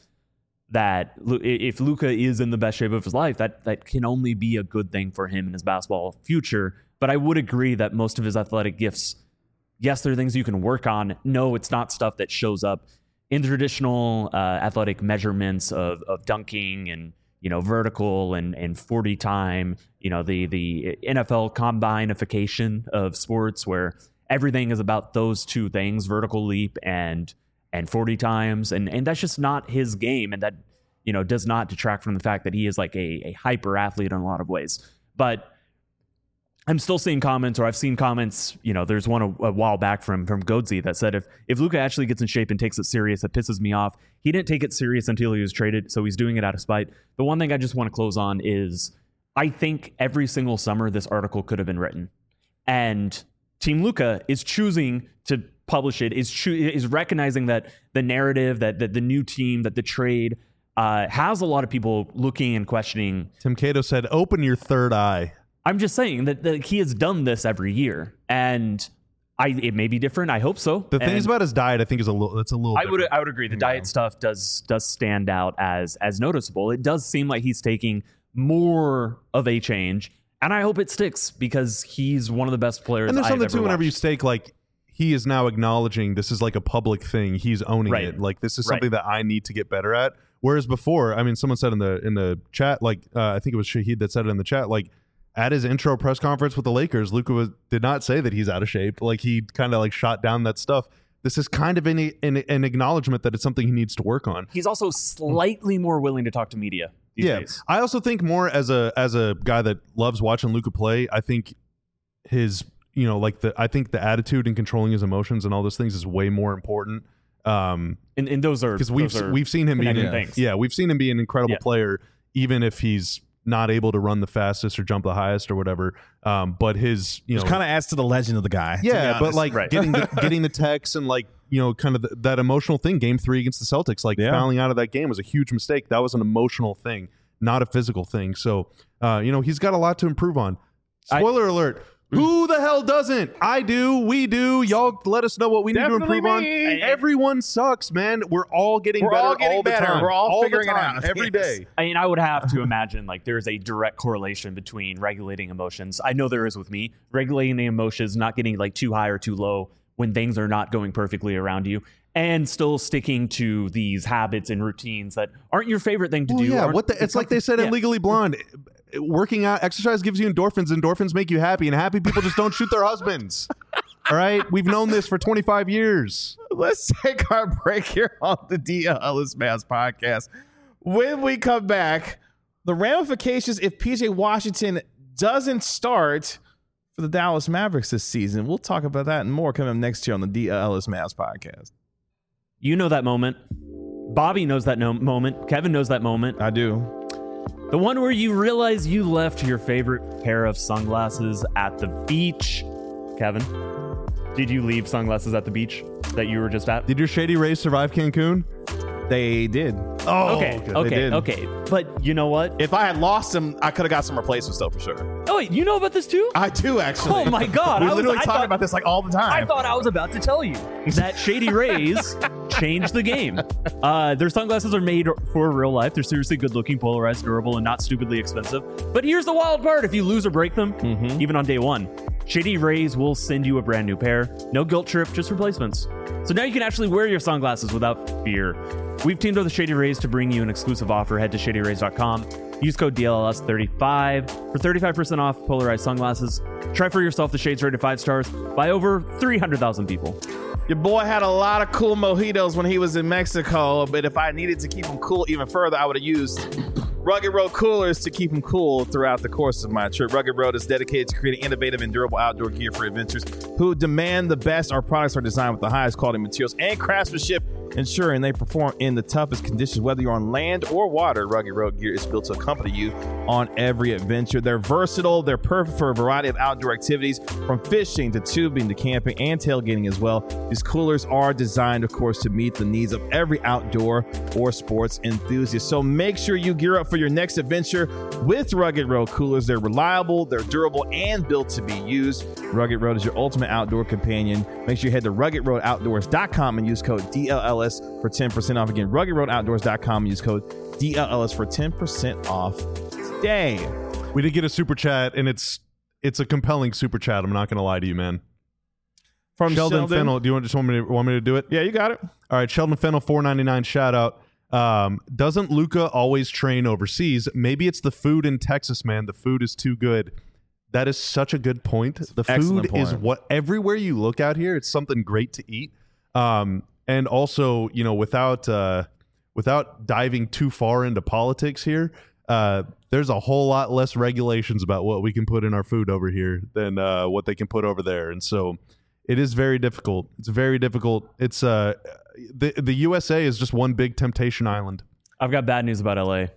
that Lu- if Luka is in the best shape of his life, that that can only be a good thing for him in his basketball future. But I would agree that most of his athletic gifts, yes, they're things you can work on. No, it's not stuff that shows up in the traditional uh, athletic measurements of of dunking and, you know, vertical and and forty time, you know, the the N F L combineification of sports where everything is about those two things, vertical leap and and forty times, and and that's just not his game, and that, you know, does not detract from the fact that he is like a, a hyper athlete in a lot of ways. But I'm still seeing comments, or I've seen comments, you know, there's one a, a while back from from Godsey that said if if Luka actually gets in shape and takes it serious, it pisses me off. He didn't take it serious until he was traded, so he's doing it out of spite. The one thing I just want to close on is I think every single summer this article could have been written, and Team Luka is choosing to publish it, is cho- is recognizing that the narrative, that, that the new team, that the trade uh, has a lot of people looking and questioning. Tim Cato said, open your third eye. I'm just saying that, that he has done this every year, and I it may be different. I hope so. The and things about his diet, I think, is a little. That's a little. I would different. I would agree. The diet stuff does does stand out as as noticeable. It does seem like he's taking more of a change, and I hope it sticks because he's one of the best players. And there's I've something ever too. Whenever watched. you stake, like, he is now acknowledging this is like a public thing. He's owning Right. it. Like, this is Right. something that I need to get better at. Whereas before, I mean, someone said in the in the chat, like, uh, I think it was Shahid that said it in the chat, like, at his intro press conference with the Lakers, Luka was, did not say that he's out of shape. Like, he kind of like shot down that stuff. This is kind of an, an an acknowledgement that it's something he needs to work on. He's also slightly more willing to talk to media these Yeah, days. I also think more as a as a guy that loves watching Luka play. I think his you know, like the I think the attitude and controlling his emotions and all those things is way more important. Um, and, and those are because we've those are we've seen him be connected an, things. yeah we've seen him be an incredible Yeah. player, even if he's not able to run the fastest or jump the highest or whatever. Um, but his you Which know kind of adds to the legend of the guy. to be yeah, but honest. like Right. getting the, getting the texts and like you know kind of the, that emotional thing. Game three against the Celtics, like Yeah. fouling out of that game was a huge mistake. That was an emotional thing, not a physical thing. So uh, you know he's got a lot to improve on. Spoiler alert. Who the hell doesn't? I do. We do. Y'all let us know what we need Definitely to improve me. on. Everyone sucks, man. We're all getting We're better all getting all the better. time. We're all the figuring it time, out. every Yes. day. I mean, I would have to imagine like there's a direct correlation between regulating emotions. I know there is with me. Regulating the emotions, not getting like too high or too low when things are not going perfectly around you, and still sticking to these habits and routines that aren't your favorite thing to Well, do. yeah, aren't- what the, it's like they said in Yeah. Legally Blonde. Working out, exercise gives you endorphins. Endorphins make you happy, and happy people just don't shoot their husbands. All right, we've known this for twenty-five years. Let's take our break here on the D L Ellis Mavs podcast. When we come back, the ramifications if P J Washington doesn't start for the Dallas Mavericks this season. We'll talk about that and more coming up next year on the D L Ellis Mavs podcast. You know that moment. Bobby knows that no- moment. Kevin knows that moment. I do. The one where you realize you left your favorite pair of sunglasses at the beach. Kevin, did you leave sunglasses at the beach that you were just at? Did your Shady Rays survive Cancun? They did. Oh, okay, they okay, did. okay. But you know what? If I had lost them, I could have got some replacements though for sure. Oh, wait, you know about this too? I do actually. Oh my God. We I was- literally I talk thought- about this like all the time. I thought I was about to tell you that Shady Rays changed the game. Uh, their sunglasses are made for real life. They're seriously good looking, polarized, durable, and not stupidly expensive. But here's the wild part. If you lose or break them, Mhm. even on day one, Shady Rays will send you a brand new pair. No guilt trip, just replacements. So now you can actually wear your sunglasses without fear. We've teamed with the Shady Rays to bring you an exclusive offer. Head to shady rays dot com. Use code D L L S thirty-five for thirty-five percent off polarized sunglasses. Try for yourself the shades rated five stars by over three hundred thousand people. Your boy had a lot of cool mojitos when he was in Mexico, but if I needed to keep him cool even further, I would have used Rugged Road coolers to keep him cool throughout the course of my trip. Rugged Road is dedicated to creating innovative and durable outdoor gear for adventurers who demand the best. Our products are designed with the highest quality materials and craftsmanship, ensuring they perform in the toughest conditions. Whether you're on land or water, Rugged Road gear is built to accompany you on every adventure. They're versatile. They're perfect for a variety of outdoor activities, from fishing to tubing to camping and tailgating as well. These coolers are designed, of course, to meet the needs of every outdoor or sports enthusiast. So make sure you gear up for your next adventure with Rugged Road coolers. They're reliable, they're durable, and built to be used. Rugged Road is your ultimate outdoor companion. Make sure you head to rugged road outdoors dot com and use code D L L S for ten percent off. Again, rugged road outdoors dot com and use code D L L S for ten percent off today. We did get a super chat, and it's it's a compelling super chat. I'm not going to lie to you, man. From Sheldon, Sheldon, Fennel, do you want just want me to want me to do it? Yeah, you got it. All right, Sheldon Fennel, four ninety-nine shout out. Um, doesn't Luca always train overseas? Maybe it's the food in Texas, man. The food is too good. That is such a good point. The excellent food is point. what everywhere you look out here, it's something great to eat. Um, and also, you know, without uh, without diving too far into politics here, uh, there's a whole lot less regulations about what we can put in our food over here than uh, what they can put over there, and so it is very difficult. It's very difficult. It's uh, the the U S A is just one big temptation island. I've got bad news about L A.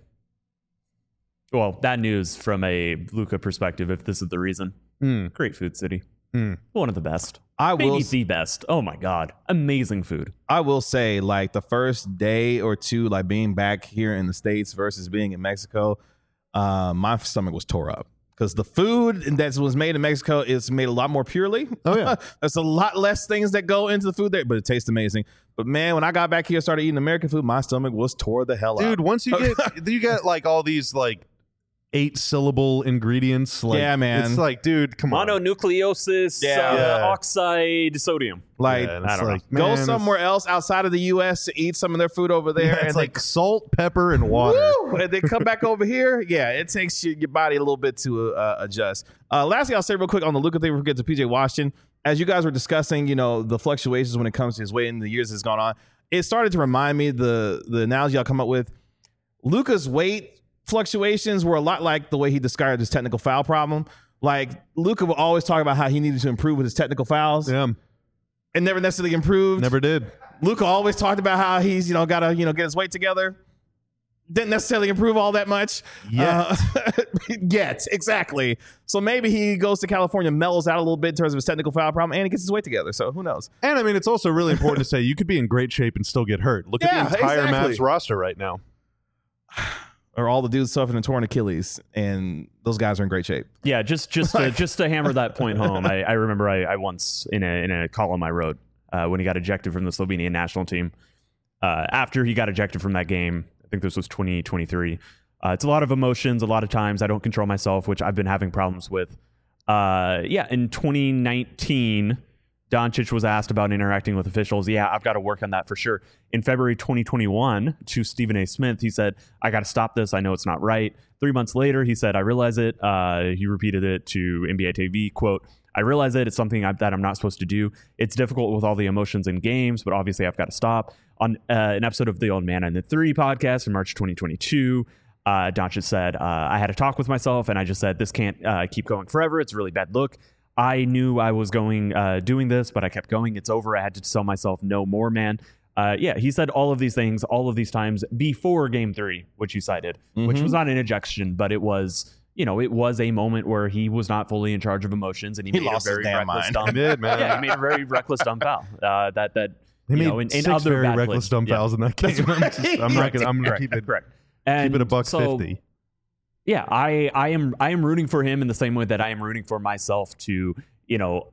Well, bad news from a Luca perspective, if this is the reason. Mm, Great food city. mm. One of the best. I Maybe will. the best. Oh my God. Amazing food. I will say, like the first day or two, like being back here in the States versus being in Mexico, uh, my stomach was tore up because the food that was made in Mexico is made a lot more purely. Oh, yeah. There's a lot less things that go into the food there, but it tastes amazing. But man, when I got back here and started eating American food, my stomach was tore the hell Dude, up. once you get you get like all these like eight syllable ingredients, like, Yeah, man. it's like, dude, come on. Mononucleosis, Yeah. uh, Yeah. oxide, sodium. Like, Yeah, and I it's don't know. like, go man, it's- somewhere else outside of the U S to eat some of their food over there, Yeah, and it's they like salt, pepper, and water. Woo! And they come back over here. Yeah, it takes your, your body a little bit to uh, adjust. Uh, last thing I'll say real quick on the Luka thing before we get to P J Washington. As you guys were discussing, you know, the fluctuations when it comes to his weight in the years that's gone on, it started to remind me the the analogy I'll come up with. Luka's weight fluctuations were a lot like the way he described his technical foul problem. Like Luka will always talk about how he needed to improve with his technical fouls. Yeah. And never necessarily improved. Never did. Luka always talked about how he's, you know, got to, you know, get his weight together. Didn't necessarily improve all that much. Yet. Uh, yet, exactly. So maybe he goes to California, mellows out a little bit in terms of his technical foul problem, and he gets his weight together. So who knows? And I mean, it's also really important to say you could be in great shape and still get hurt. Look Yeah, at the entire exactly. Mavs roster right now. Or all the dudes suffering a torn Achilles, and those guys are in great shape. Yeah, just just to, just to hammer that point home, I, I remember I, I once in a in a column I wrote uh, when he got ejected from the Slovenian national team. Uh, after he got ejected from that game, I think this was twenty twenty-three. Uh, it's a lot of emotions. A lot of times I don't control myself, which I've been having problems with. Uh, yeah, in twenty nineteen, Doncic was asked about interacting with officials. Yeah, I've got to work on that for sure. In February twenty twenty-one, to Stephen A. Smith, he said, I got to stop this. I know it's not right. Three months later, he said, I realize it. Uh, he repeated it to N B A T V, quote, I realize it. It's something I, that I'm not supposed to do. It's difficult with all the emotions in games, but obviously I've got to stop. On uh, an episode of the Old Man and the Three podcast in March twenty twenty-two, uh, Doncic said, uh, I had a talk with myself, and I just said, this can't uh, keep going forever. It's a really bad look. I knew I was going uh, doing this, but I kept going. It's over. I had to tell myself no more, man. Uh, yeah, he said all of these things all of these times before game three, which you cited, mm-hmm. which was not an ejection, but it was, you know, it was a moment where he was not fully in charge of emotions, and he, he made lost a very his damn reckless mind. dumb. He did, man. Yeah, he made a very reckless dumb foul. Uh, that that He you made know, in, in six other very bad reckless plays. dumb Yeah. fouls in that game. I'm, just, I'm not gonna. I'm gonna Correct, keep it. correct. And Keep it a buck so, fifty. Yeah, I I am I am rooting for him in the same way that I am rooting for myself to, you know,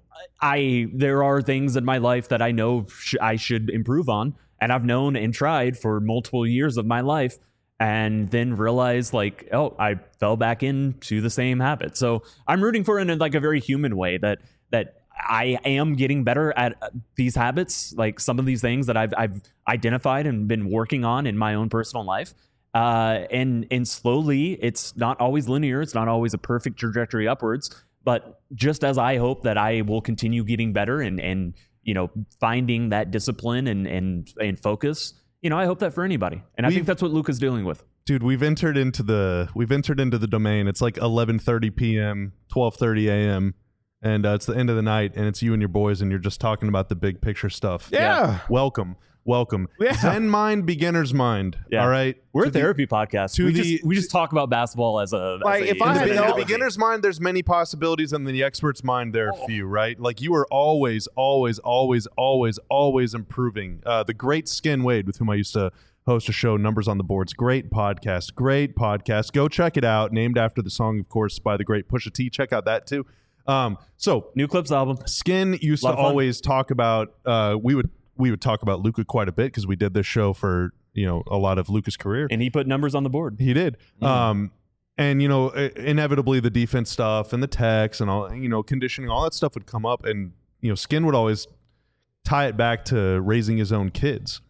I there are things in my life that I know sh- I should improve on, and I've known and tried for multiple years of my life, and then realized like, oh, I fell back into the same habit. So I'm rooting for it in like a very human way that that I am getting better at these habits, like some of these things that I've I've identified and been working on in my own personal life. Uh, and and slowly, it's not always linear. It's not always a perfect trajectory upwards. But just as I hope that I will continue getting better and and you know finding that discipline and and and focus, you know, I hope that for anybody. And I We've- think that's what Luka's dealing with. Dude, we've entered into the we've entered into the domain. It's like eleven thirty p.m., twelve thirty a.m., and uh, it's the end of the night, and it's you and your boys, and you're just talking about the big picture stuff. Yeah. Welcome. Welcome. Yeah. Zen mind, beginner's mind. Yeah. All right. We're To a the- therapy podcast. to we the- just we just talk about basketball as a as Like, a- if I In the, had be- in the analogy. beginner's mind, there's many possibilities, and in the expert's mind, there are few, right? Like, you are always, always, always, always, always improving. Uh, the great Skin Wade, with whom I used to host a show, Numbers on the Boards, great podcast, great podcast. Go check it out. Named after the song, of course, by the great Pusha T. Check out that, too. Um, so, New Clips album. Skin used Lot to of fun. always talk about, uh, we would we would talk about Luka quite a bit because we did this show for, you know, a lot of Luka's career. And he put numbers on the board. He did. Mm. Um, and, you know, i- inevitably the defense stuff and the techs and all, you know, conditioning, all that stuff would come up. And, you know, Skin would always tie it back to raising his own kids.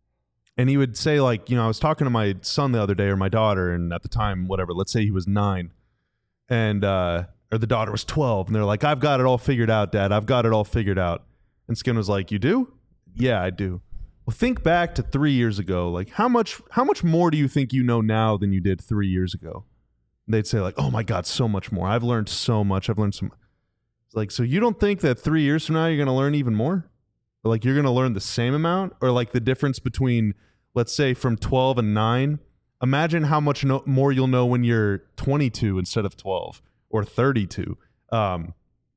And he would say, like, you know, I was talking to my son the other day or my daughter, and at the time, whatever, let's say he was nine. And, uh, or the daughter was twelve. And they're like, I've got it all figured out, Dad. I've got it all figured out. And Skin was like, you do? Yeah, I do. Well, think back to three years ago. Like, how much how much more do you think you know now than you did three years ago? And they'd say, like, oh my God, so much more. I've learned so much. I've learned some. It's like, so you don't think that three years from now you're going to learn even more? Or like, you're going to learn the same amount? Or like the difference between, let's say, from twelve and nine? Imagine how much no- more you'll know when you're twenty-two instead of twelve or thirty-two. Um,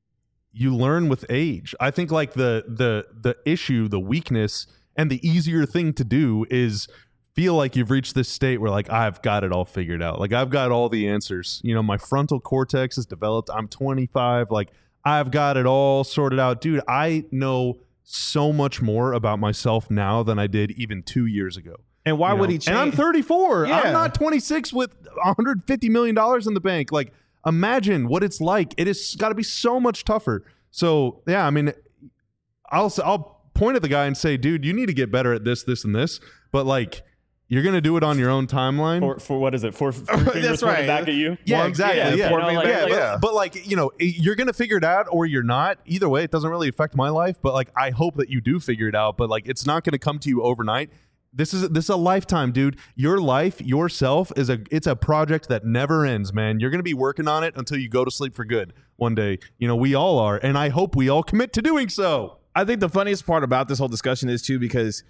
you learn with age. I think like the the the issue, the weakness, and the easier thing to do is feel like you've reached this state where like I've got it all figured out. Like I've got all the answers. You know, my frontal cortex is developed. I'm twenty-five. Like I've got it all sorted out. Dude, I know so much more about myself now than I did even two years ago. And why You would know? he change? And I'm thirty-four. Yeah. I'm not twenty-six with one hundred fifty million dollars in the bank. Like, imagine what it's like. It has got to be so much tougher. So, yeah, I mean, I'll I'll point at the guy and say, dude, you need to get better at this, this, and this. But, like, you're going to do it on your own timeline. For, for what is it? Four three fingers That's pointed right. back at you? Yeah, One- exactly. yeah, Yeah, you know, like- yeah, like- but, yeah. but like you know, you're gonna figure it out or you're not. Either way, it doesn't really affect my life. But like, I hope that you do figure it out. But like, it's not gonna come to you overnight. This is this is a lifetime, dude. Your life, yourself, is a it's a project that never ends, man. You're gonna be working on it until you go to sleep for good one day. You know, we all are, and I hope we all commit to doing so. I think the funniest part about this whole discussion is too because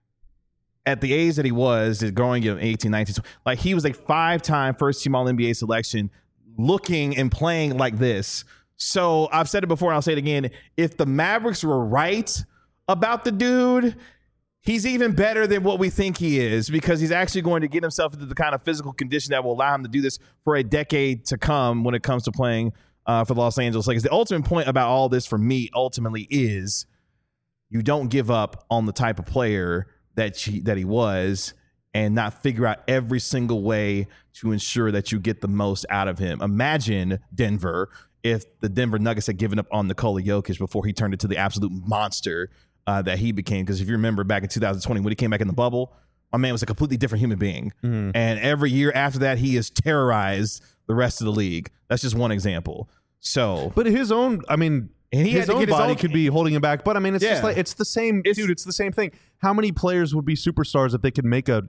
at the age that he was, growing in eighteen, nineteen, like he was a five-time first-team All N B A selection, looking and playing like this. So I've said it before, and I'll say it again. If the Mavericks were right about the dude, he's even better than what we think he is because he's actually going to get himself into the kind of physical condition that will allow him to do this for a decade to come when it comes to playing uh, for the Los Angeles Lakers. The ultimate point about all this for me ultimately is you don't give up on the type of player that she, that he was and not figure out every single way to ensure that you get the most out of him. Imagine, Denver, if the Denver Nuggets had given up on Nikola Jokic before he turned into the absolute monster Uh, that he became, because if you remember back in two thousand twenty when he came back in the bubble, my man was a completely different human being. Mm-hmm. And every year after that, he has terrorized the rest of the league. That's just one example. So, but his own, I mean, and he his own his body own, could be holding him back. But I mean, it's yeah. just like it's the same, it's, dude. It's the same thing. How many players would be superstars if they could make a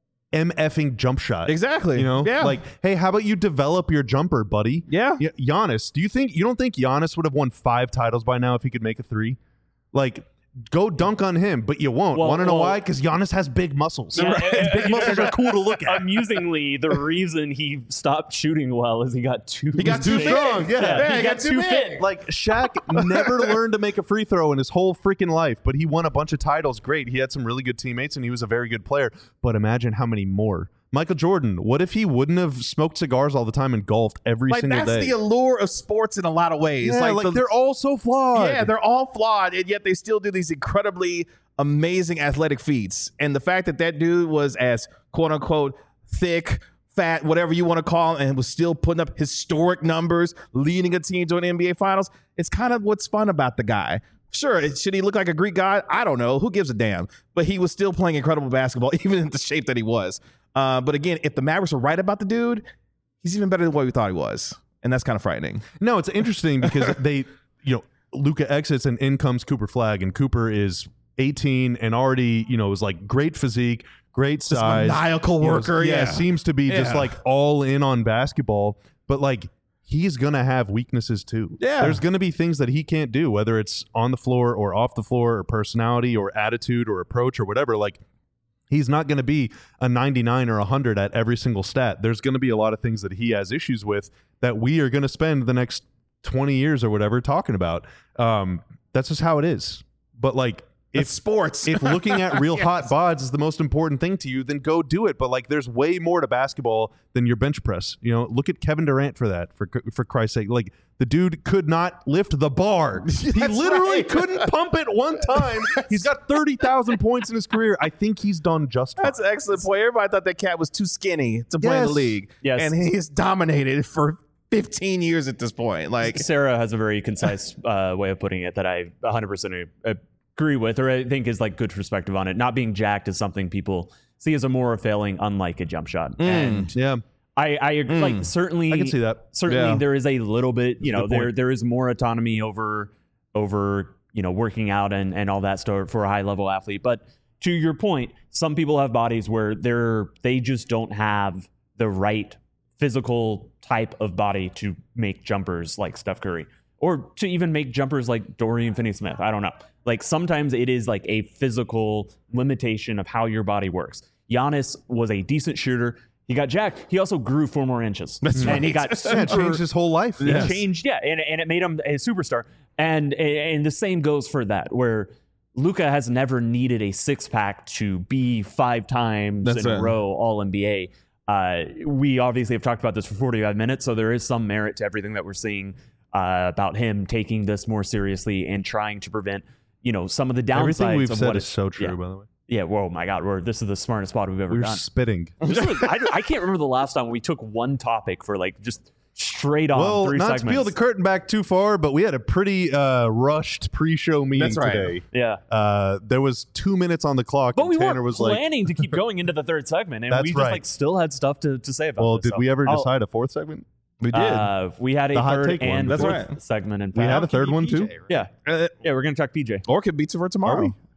MFing jump shot? Exactly. You know, yeah. like, hey, how about you develop your jumper, buddy? Yeah. Y- Giannis, do you think you don't think Giannis would have won five titles by now if he could make a three? Like, go dunk on him, but you won't. Well, Want to know well, why? Because Giannis has big muscles. Yeah, And big muscles are cool to look at. Amusingly, the reason he stopped shooting well is he got too He got too too strong. Yeah, Yeah, he, he got, got too too big. fit. Like Shaq never learned to make a free throw in his whole freaking life, but he won a bunch of titles. Great. He had some really good teammates and he was a very good player. But imagine how many more. Michael Jordan, what if he wouldn't have smoked cigars all the time and golfed every like single that's day? the allure of sports in a lot of ways. Yeah, like, like the, they're all so flawed. Yeah, they're all flawed, and yet they still do these incredibly amazing athletic feats. And the fact that that dude was as quote unquote thick, fat, whatever you want to call him, and was still putting up historic numbers, leading a team to an N B A Finals, it's kind of what's fun about the guy. Sure, should he look like a Greek god? I don't know. Who gives a damn? But he was still playing incredible basketball, even in the shape that he was. Uh, but again, if the Mavericks were right about the dude, he's even better than what we thought he was. And that's kind of frightening. No, it's interesting because they, you know, Luka exits and in comes Cooper Flagg, and Cooper is eighteen and already, you know, is like great physique, great size, maniacal you know, worker. yeah, Yeah, seems to be just Yeah. like all in on basketball, but like he's gonna have weaknesses too. Yeah. There's gonna be things that he can't do, whether it's on the floor or off the floor, or personality or attitude or approach or whatever. Like, he's not going to be a ninety-nine or one hundred at every single stat. There's going to be a lot of things that he has issues with that we are going to spend the next twenty years or whatever talking about. Um, that's just how it is. But like, It's sports. if looking at real Yes. hot bods is the most important thing to you, then go do it. But like, there's way more to basketball than your bench press. You know, look at Kevin Durant for that. For for Christ's sake, like the dude could not lift the bar. He That's literally right. couldn't pump it one time. He's got thirty thousand points in his career. I think he's done just fine. That's an excellent point. Everybody thought that cat was too skinny to play in Yes. the league. Yes. And he's dominated for fifteen years at this point. Like, Sarah has a very concise uh, way of putting it that I one hundred percent agree with, or I think is like good perspective on it. Not being jacked is something people see as a moral failing, unlike a jump shot. And Yeah, I, I agree. Mm. Like certainly, I can see that. certainly Yeah. there is a little bit, you know, good there point. there is more autonomy over over you know working out and and all that stuff for a high level athlete. But to your point, some people have bodies where they're they just don't have the right physical type of body to make jumpers like Steph Curry, or to even make jumpers like Dorian Finney-Smith. I don't know. Like sometimes it is like a physical limitation of how your body works. Giannis was a decent shooter. He got jacked. He also grew four more inches. That's and right. he got super, yeah, it changed his whole life. it Yes. changed, yeah, and, and it made him a superstar. And and the same goes for that, where Luka has never needed a six pack to be five times That's in right. a row All N B A. Uh, we obviously have talked about this for forty-five minutes, so there is some merit to everything that we're seeing uh, about him taking this more seriously and trying to prevent, you know, some of the downsides. Everything we've of said what is it- so true, Yeah, by the way. yeah. Whoa, my God, we're this is the smartest pod we've ever We're done. spitting. This was- I, I can't remember the last time we took one topic for like just straight on Well, three not segments. to peel the curtain back too far, but we had a pretty uh, rushed pre-show meeting That's right. today. yeah. Uh, there was two minutes on the clock, But and we Tanner weren't was like, planning to keep going into the third segment, and That's we just right. like still had stuff to, to say about well, this. did so we ever I'll- decide a fourth segment? we did. Uh, we had a The hot third take one. and That's fourth right. segment. In We fact. had a third one too? Yeah, Uh, yeah. We're gonna talk P J. or could beat it for tomorrow. Are we?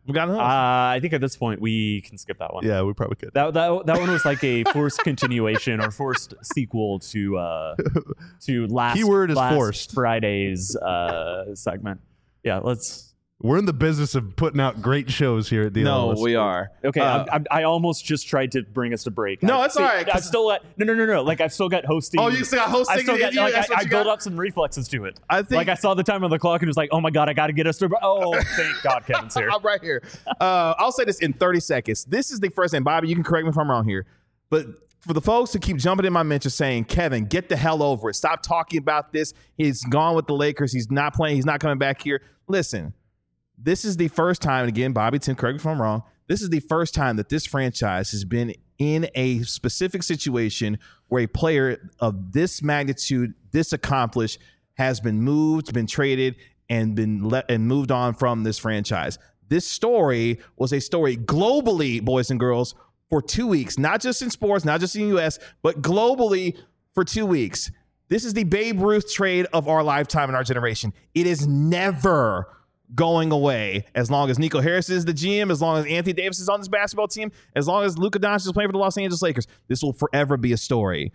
We got another. Uh, I think at this point we can skip that one. Yeah, we probably could. That that that one was like a forced continuation or forced sequel to uh to last Keyword is last forced. Friday's uh segment. Yeah, let's. We're in the business of putting out great shows here at D L S. no, we are. Okay, Uh, I'm, I'm, I almost just tried to bring us to break. No, I, it's all right, I've 'cause- still got no, no, no, no. Like I've still got hosting. Oh, you still got hosting? I still got You- like that's I, what I you built got? up some reflexes to it. I think Like I saw the time on the clock and was like, oh my god, I got to get us to. Oh, thank God, Kevin's here. I'm right here. Uh, I'll say this in thirty seconds. This is the first, and Bobby, you can correct me if I'm wrong here, but for the folks who keep jumping in my mentions saying, Kevin, get the hell over it. Stop talking about this. He's gone with the Lakers. He's not playing. He's not coming back here. Listen, this is the first time, and again, Bobby, Tim, correct me if I'm wrong, this is the first time that this franchise has been in a specific situation where a player of this magnitude, this accomplished, has been moved, been traded, and been let and moved on from this franchise. This story was a story globally, boys and girls, for two weeks, not just in sports, not just in the U S, but globally for two weeks. This is the Babe Ruth trade of our lifetime and our generation. It is never going away as long as Nico Harris is the G M, as long as Anthony Davis is on this basketball team, as long as Luka Doncic is playing for the Los Angeles Lakers. This will forever be a story.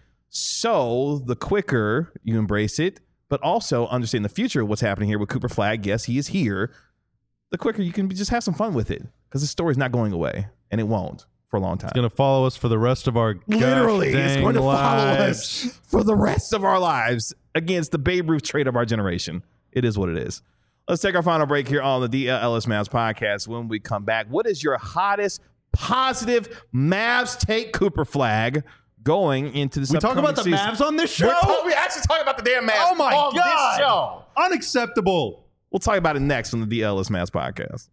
So the quicker you embrace it, but also understand the future of what's happening here with Cooper Flagg. Yes, he is here. The quicker you can just have some fun with it, because the story's not going away, and it won't for a long time. It's going to follow us for the rest of our Literally, gosh it's dang going to lives. follow us for the rest of our lives against the Babe Ruth trade of our generation. It is what it is. Let's take our final break here on the D L S Mavs podcast. When we come back, what is your hottest positive Mavs take, Cooper Flagg, going into this We talk upcoming about the season? Mavs on this show? We're talk- we actually talk about the damn Mavs Oh my on God. this show. Unacceptable. We'll talk about it next on the D L S Mavs podcast.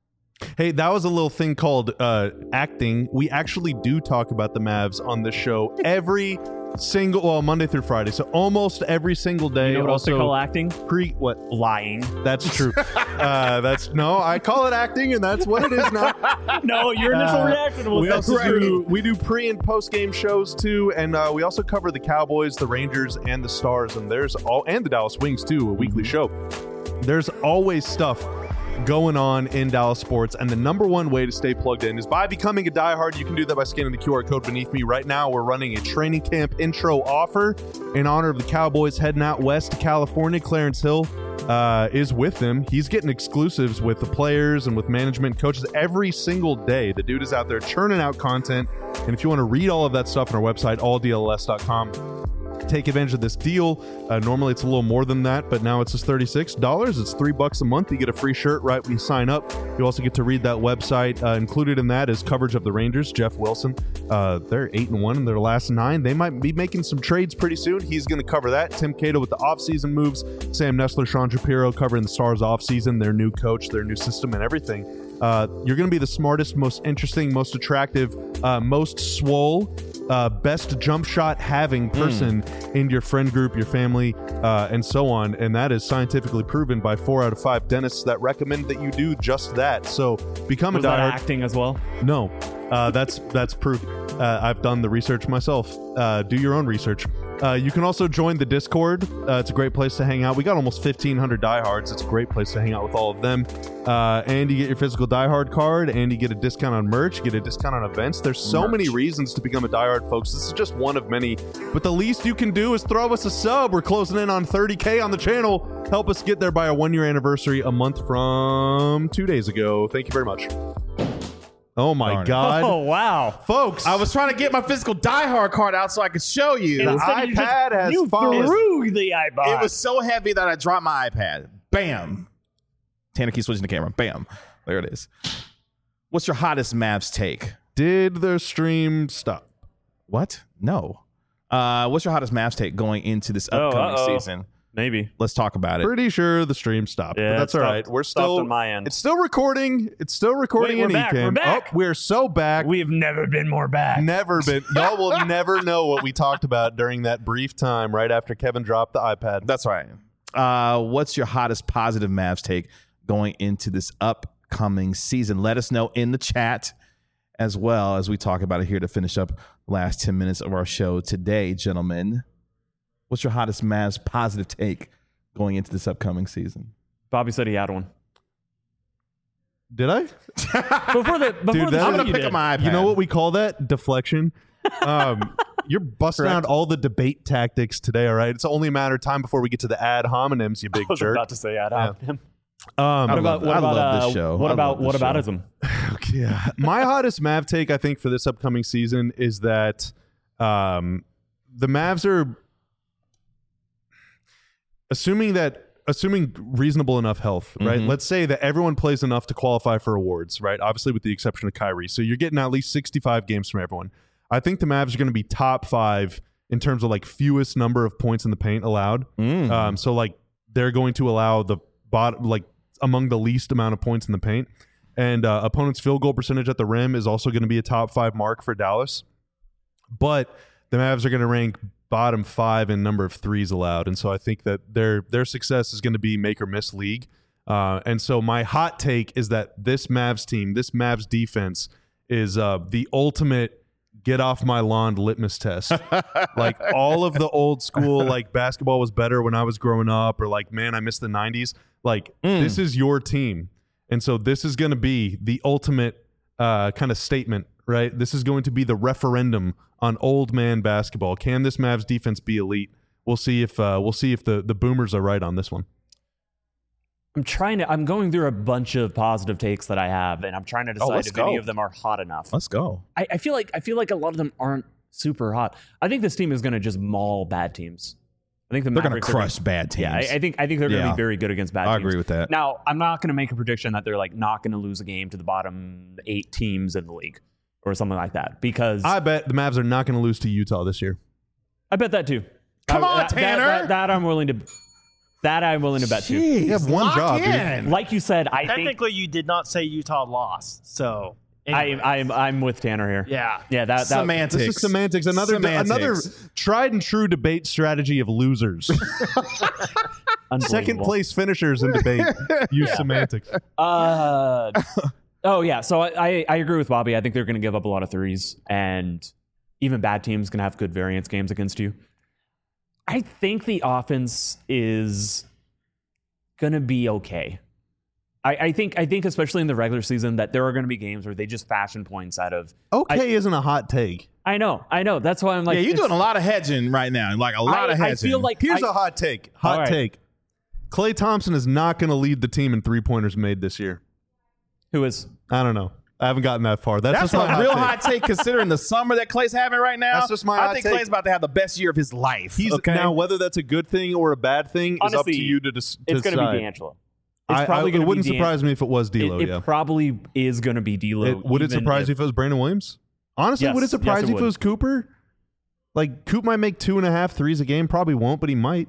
Hey, that was a little thing called uh, acting. We actually do talk about the Mavs on this show every single, well, Monday through Friday. So almost every single day. You know what else they Also, call acting? pre what? Lying. That's true. uh, that's no, I call it acting, and that's what it is now. No, your initial Uh, reaction was we that's also right. do we do pre and post game shows too, and uh, we also cover the Cowboys, the Rangers, and the Stars, and there's all and the Dallas Wings too, a weekly show. There's always stuff going on in Dallas sports, and the number one way to stay plugged in is by becoming a diehard. You can do that by scanning the Q R code beneath me. Right now, we're running a training camp intro offer in honor of the Cowboys heading out west to California. Clarence Hill uh, is with them. He's getting exclusives with the players and with management, coaches every single day. The dude is out there churning out content, and if you want to read all of that stuff on our website, all D L S dot com, take advantage of this deal. Uh, normally it's a little more than that, but now it's just thirty-six dollars. It's three bucks a month. You get a free shirt right when you sign up. You also get to read that website. Uh, included in that is coverage of the Rangers. Jeff Wilson, uh, they're eight and one in their last nine. They might be making some trades pretty soon. He's going to cover that. Tim Cato with the offseason moves. Sam Nessler, Sean Shapiro covering the Stars offseason, their new coach, their new system, and everything. Uh, you're going to be the smartest, most interesting, most attractive, uh, most swole, uh, best jump shot having person mm. in your friend group, your family, uh, and so on. And that is scientifically proven by four out of five dentists that recommend that you do just that. So become Was a that diehard. acting as well? No, uh, that's that's proof. Uh, I've done the research myself. Uh, do your own research. Uh, you can also join the Discord. Uh, it's a great place to hang out. We got almost fifteen hundred diehards. It's a great place to hang out with all of them. Uh, and you get your physical diehard card, and you get a discount on merch. You get a discount on events. There's so Merch. many reasons to become a diehard, folks. This is just one of many. But the least you can do is throw us a sub. We're closing in on thirty K on the channel. Help us get there by our one-year anniversary a month from two days ago. Thank you very much. Oh, my Darn it. God. Oh, wow. Folks, I was trying to get my physical diehard card out so I could show you. The Instead, you just- iPad has you fallen. threw the iPod. It was so heavy that I dropped my iPad. Bam. Tanner keeps switching the camera. Bam. There it is. What's your hottest Mavs take? did the stream stop? What? No. Uh, what's your hottest Mavs take going into this Oh, upcoming uh-oh. season? Maybe. Let's talk about it. Pretty sure the stream stopped, Yeah, but that's it all stopped- right. We're stopped still on my end. It's still recording. It's still recording Wait, in we're back, Ecamm. we're back. Oh, we're so back. We've never been more back. Never been. Y'all will never know what we talked about during that brief time right after Kevin dropped the iPad. That's right. Uh, what's your hottest positive Mavs take going into this upcoming season? Let us know in the chat as well as we talk about it here to finish up the last ten minutes of our show today, gentlemen. What's your hottest Mavs positive take going into this upcoming season? Bobby said he had one. Did I? Before the before Dude, the that- show I'm gonna you pick did. up my iPad. You know what we call that? Deflection. Um, you're busting Correct. out all the debate tactics today, all right? It's only a matter of time before we get to the ad hominems, you big I was jerk. about to say Ad Yeah. hominem. Um, What I about love- what I about love this uh, show. what I about love what this about show. ism? Okay, yeah. My hottest Mav take, I think, for this upcoming season is that um, the Mavs are assuming that assuming reasonable enough health, right? Mhm. Let's say that everyone plays enough to qualify for awards, right? Obviously, with the exception of Kyrie. So you're getting at least sixty-five games from everyone. I think the Mavs are going to be top five in terms of like fewest number of points in the paint allowed. Mm. Um, so like they're going to allow the bottom, like among the least amount of points in the paint. And uh, opponent's field goal percentage at the rim is also going to be a top five mark for Dallas. But the Mavs are going to rank bottom five in number of threes allowed. And so I think that their their success is going to be make or miss league. Uh, and so my hot take is that this Mavs team, this Mavs defense is uh, the ultimate get off my lawn litmus test. Like all of the old school, like basketball was better when I was growing up, or like, man, I miss the nineties. Like Mm. this is your team. And so this is going to be the ultimate uh, kind of statement, right? This is going to be the referendum on old man basketball. Can this Mavs defense be elite? We'll see if uh, we'll see if the, the boomers are right on this one. I'm trying to. I'm going through a bunch of positive takes that I have, and I'm trying to decide let's if any go. of them are hot enough. Let's go. I, I feel like I feel like a lot of them aren't super hot. I think this team is going to just maul bad teams. I think the They're gonna Mavericks are crush bad teams. Yeah, I, I think I think they're going to Yeah. be very good against bad I teams. agree with that. Now, I'm not going to make a prediction that they're like not going to lose a game to the bottom eight teams in the league or something like that, because I bet the Mavs are not going to lose to Utah this year. I bet that too. Come I- on, that, that- Tanner. That, that I'm willing to. That I'm willing to bet too. Jeez, You have one lock job, dude. in. Like you said, I think Technically, you did not say Utah lost. So, I, anyways. I'm I'm with Tanner here. yeah. Yeah, that that Semantics. This is semantics. Another Semantics. another tried and true debate strategy of losers. unbelievable. Second place finishers in debate use semantics. Uh, oh yeah. So I, I I agree with Bobby. I think they're going to give up a lot of threes, and even bad teams can have good variance games against you. I think the offense is going to be okay. I, I think I think especially in the regular season that there are going to be games where they just fashion points out of. Okay isn't a hot take. I know, I know. That's why I'm like, yeah, you're it's- doing a lot of hedging right now. Like a lot I, of I hedging. feel like Here's I- a hot take. Hot All right. take. Klay Thompson is not going to lead the team in three pointers made this year. who is. I don't know. I haven't gotten that far. That's, That's just my a real take. hot take considering the summer that Clay's having right now. That's just my I hot think take. Clay's about to have the best year of his life. He's okay? now whether that's a good thing or a bad thing is up to Honestly, you to, dis- to It's going decide. to be D'Angelo. It's I, I, probably it going to wouldn't be D'An- surprise me if it was D'Lo. It, it yeah. probably is going to be D'Lo. It, would it even surprise if- you if it was Brandon Williams? Honestly, Yes, would it yes, surprise it you if would. it was Cooper? Like Coop might make two and a half threes a game. Probably won't, but he might.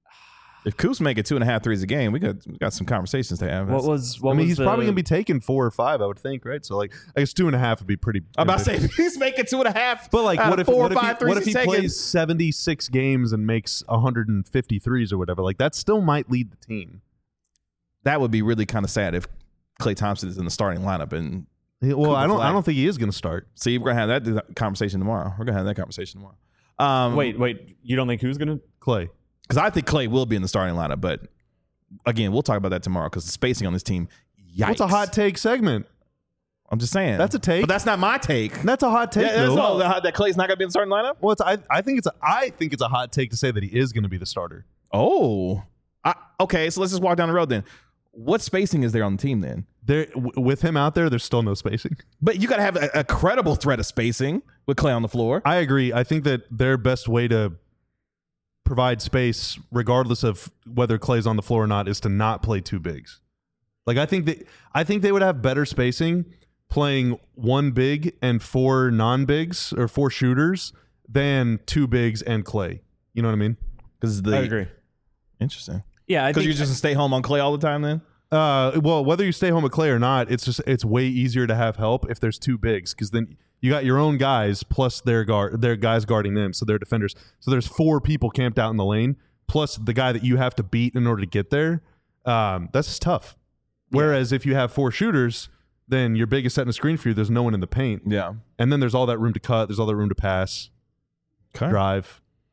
if Coop's making two and a half threes a game, we got we got some conversations to have. What was? What I mean, was he's the, probably gonna be taking four or five. I would think, right? So like, I guess two and a half would be pretty. I'm about to say ambitious. if he's making two and a half. But like, out what of if four what or if he, five threes what if he he's taking- plays seventy-six games and makes one hundred fifty threes or whatever? Like that still might lead the team. That would be really kind of sad if Klay Thompson is in the starting lineup. And Well, Cooper I don't. Flag. I don't think he is going to start. see, we're gonna have that conversation tomorrow. We're gonna have that conversation tomorrow. Um, Wait, wait. You don't think who's going to? Clay. because I think Klay will be in the starting lineup, but again, we'll talk about that tomorrow because the spacing on this team. Yikes. What's a hot take segment? I'm just saying That's a take. but that's not my take. That's a hot take. Yeah, that's though. all, that that Clay's not gonna be in the starting lineup. Well, it's, I, I think it's a, I think it's a hot take to say that he is going to be the starter. Oh, I, okay. So let's just walk down the road then. What spacing is there on the team then? There, w- with him out there, there's still no spacing. But you got to have a, a credible threat of spacing with Klay on the floor. I agree. I think that their best way to provide space, regardless of whether Clay's on the floor or not, is to not play two bigs. Like I think that I think they would have better spacing playing one big and four non-bigs or four shooters than two bigs and Clay. You know what I mean? Because the I agree. Interesting. Yeah, I Because think you're just gonna stay home on Klay all the time then. Uh, well, whether you stay home with Clay or not, it's just it's way easier to have help if there's two bigs because then you got your own guys plus their guard, their guys guarding them, so they're defenders. So there's four people camped out in the lane plus the guy that you have to beat in order to get there. Um, that's just tough. Whereas if you have four shooters, then your big is setting a screen for you. There's no one in the paint, Yeah. and then there's all that room to cut. There's all that room to pass, Okay. drive.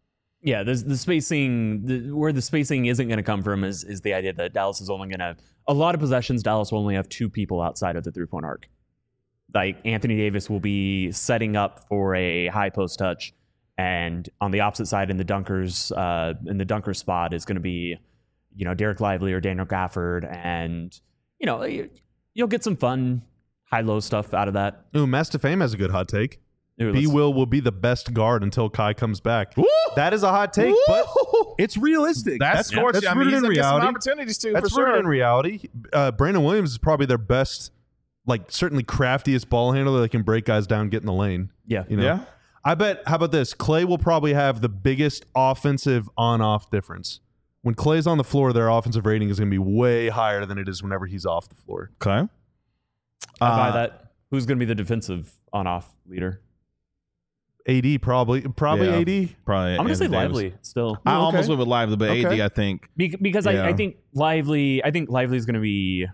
Yeah, there's the spacing. The, where the spacing isn't going to come from is is the idea that Dallas is only going to a lot of possessions. Dallas will only have two people outside of the three point arc. Like Anthony Davis will be setting up for a high post touch, and on the opposite side in the dunkers uh, in the dunker spot is going to be, you know, Derek Lively or Daniel Gafford, and you know you'll get some fun high low stuff out of that. Ooh, Master Fame has a good hot take. Ooh, B let's- Will will be the best guard until Kai comes back. Woo! That is a hot take, but it's realistic. That's, that's, fortunate. that's I mean, rooted he's in gonna get some reality. opportunities too, That's for rooted sure. in reality. Uh, Brandon Williams is probably their best, like certainly craftiest ball handler that can break guys down, get in the lane. Yeah, You know? Yeah. I bet. How about this? Clay will probably have the biggest offensive on-off difference. When Clay's on the floor, their offensive rating is going to be way higher than it is whenever he's off the floor. Okay. I buy Uh, that. Who's going to be the defensive on off leader? A D probably, probably Yeah. A D. Probably. I'm going to say Anthony Davis. Lively still. I Oh, okay. almost went with Lively, but Okay. A D, I think. Be- because Yeah. I, I think Lively, I think Lively's going to be.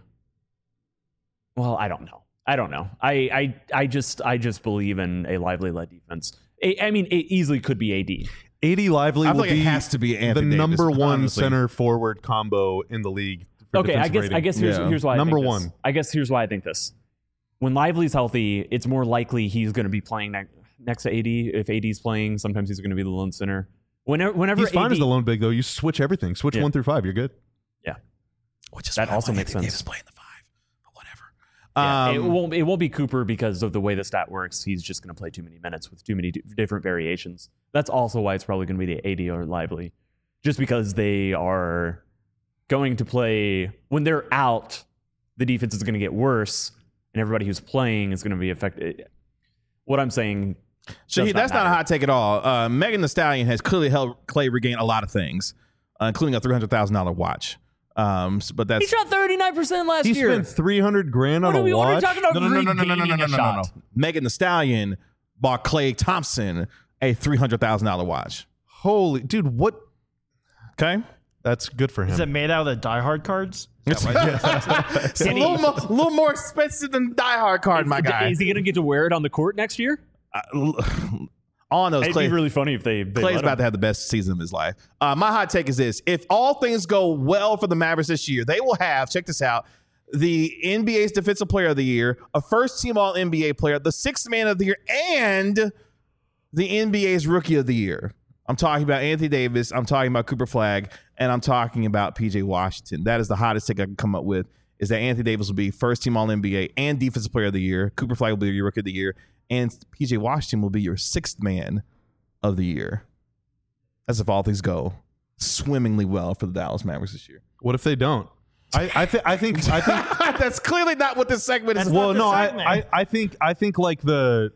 Well, I don't know. I don't know. I, I, I just, I just believe in a Lively led defense. I, I mean, it easily could be A D. A D Lively I will feel like be it has to be the Anthony Davis, number one honestly. center forward combo in the league. for Okay, I defensive guess, rating. I guess here's Yeah. here's why. Number I think this. one. I guess here's why I think this. When Lively's healthy, it's more likely he's going to be playing ne- next to A D. If A D's playing, sometimes he's going to be the lone center. Whenever, whenever He's fine A D, as the lone big though. You switch everything. Switch Yeah. one through five. You're good. Which is That why I also want makes Anthony sense. Davis playing the five, but whatever. Yeah, it Um, won't. It won't be Cooper because of the way the stat works. He's just going to play too many minutes with too many d- different variations. That's also why it's probably going to be the A D or Lively, just because they are going to play when they're out. The defense is going to get worse, and everybody who's playing is going to be affected. What I'm saying. So does he, that's not a matter. hot take at all. Uh, Megan Thee Stallion has clearly helped Clay regain a lot of things, uh, including a three hundred thousand dollars watch. Um, s- but that's He shot thirty-nine percent last He year. spent three hundred grand What on are we, a what are we watch. talking about? no, no, no, no, no, no, no, no, regaining no, a no, no, shot? no. Megan Thee Stallion bought Clay Thompson a three hundred thousand dollars watch. Holy dude, what? Okay. That's good for him. Is it made out of the Die Hard cards? It's, it's a Can he- little, mo- little more expensive than Die Hard card, my guy. Is he going to get to wear it on the court next year? On those It'd Clay, be really funny if they. they Clay's let about him. to have the best season of his life. Uh, my hot take is this: if all things go well for the Mavericks this year, they will have, check this out, the N B A's Defensive Player of the Year, a first-team All N B A player, the Sixth Man of the Year, and the N B A's Rookie of the Year. I'm talking about Anthony Davis. I'm talking about Cooper Flagg, and I'm talking about P J Washington. That is the hottest take I can come up with. Is that Anthony Davis will be first-team All N B A and Defensive Player of the Year. Cooper Flagg will be your Rookie of the Year, and P J Washington will be your Sixth Man of the Year. As if all things go swimmingly well for the Dallas Mavericks this year. What if they don't? I, I think I think I think That's clearly not what this segment is. That's well, not the no, I, segment. I, I think I think like the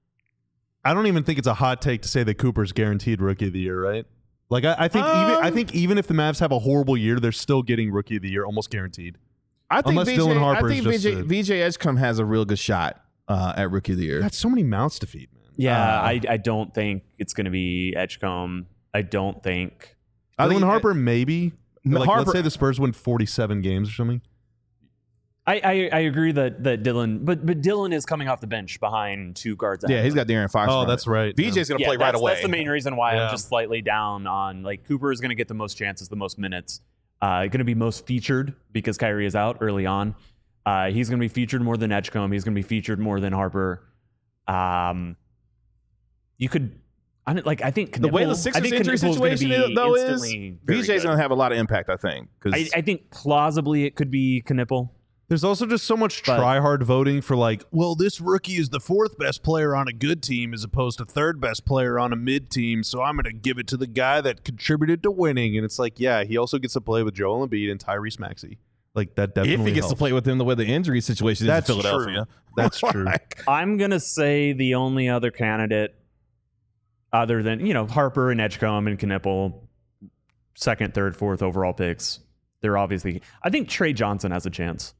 I don't even think it's a hot take to say that Cooper's guaranteed rookie of the year, right? Like I, I think even I Um, think even if the Mavs have a horrible year, they're still getting rookie of the year almost guaranteed. I think Unless V J, Dylan Harper I think is just V J, a- V J Edgecombe has a real good shot uh, at Rookie of the Year. Got so many mouths to feed, man. Yeah, Uh, I, I don't think it's going to be Edgecombe. I don't think. I Dylan think- Harper maybe. No, Like, Harper- let's say the Spurs win forty-seven games or something. I, I, I agree that, that Dylan, but but Dylan is coming off the bench behind two guards. Yeah, ahead. he's got Darren Fox. Oh, from that's it. right. V J's going to Yeah, play right that's, away. That's the main reason why Yeah. I'm just slightly down on like Cooper is going to get the most chances, the most minutes. Uh, going to be most featured because Kyrie is out early on. Uh, he's going to be featured more than Edgecombe. He's going to be featured more than Harper. Um, you could, I don't, like I think The way the Knippel- I Sixers think injury Knippel's gonna situation be is, though is instantly very V J's good. going to have a lot of impact, I think. 'cause- I, I think plausibly it could be Knippel. There's also just so much But- try-hard voting for like, well, this rookie is the fourth best player on a good team as opposed to third best player on a mid team, so I'm going to give it to the guy that contributed to winning. And it's like, yeah, he also gets to play with Joel Embiid and Tyrese Maxey. Like that definitely if he gets helps. to play with him the way the injury situation is That's in Philadelphia. true. That's true. Like, I'm gonna say the only other candidate, other than you know Harper and Edgecombe and Knippel, second, third, fourth overall picks. They're obviously. I think Trey Johnson has a chance.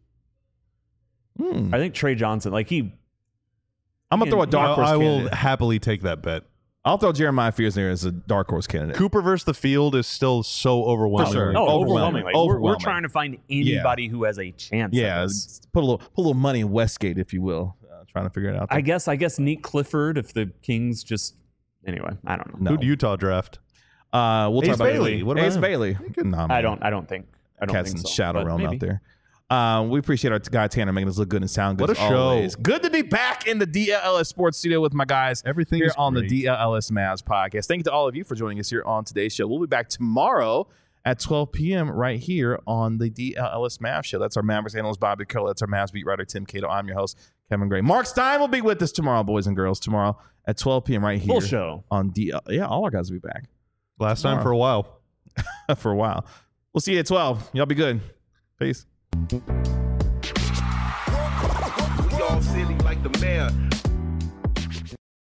hmm. I think Trey Johnson, like he, I'm going to throw a dark I, horse I will candidate. happily take that bet. I'll throw Jeremiah Fears in there as a dark horse candidate. Cooper versus the field is still so overwhelming. sure. oh, Overwhelming. overwhelming. Like, We're, we're Overwhelming. trying to find anybody who has a chance. at Yeah, this. put a little put a little money in Westgate, if you will. Uh, trying to figure it out. I guess. I guess Nick Clifford, if the Kings just anyway, I don't know. No. Who'd Utah draft? Uh, we'll Ace talk about Bailey. What about Ace him? Bailey. Nah, I man. don't. I don't think. I don't Cats think in so. shadow but realm maybe. out there. Um, we appreciate our guy Tanner making us look good and sound good. What a as show. always. Good to be back in the D L S Sports Studio with my guys. Everything here is on great. the D L S Mavs podcast. Thank you to all of you for joining us here on today's show. We'll be back tomorrow at twelve p.m. right here on the D L S Mavs show. That's our Mavericks analyst Bobby Curl. That's our Mavs beat writer Tim Cato. I'm your host Kevin Gray. Mark Stein will be with us tomorrow, boys and girls. Tomorrow at twelve p.m. right here Full show on D L. Yeah, all our guys will be back Last Tomorrow. time for a while. for a while. We'll see you at twelve. Y'all be good. Peace. We all silly like the mayor.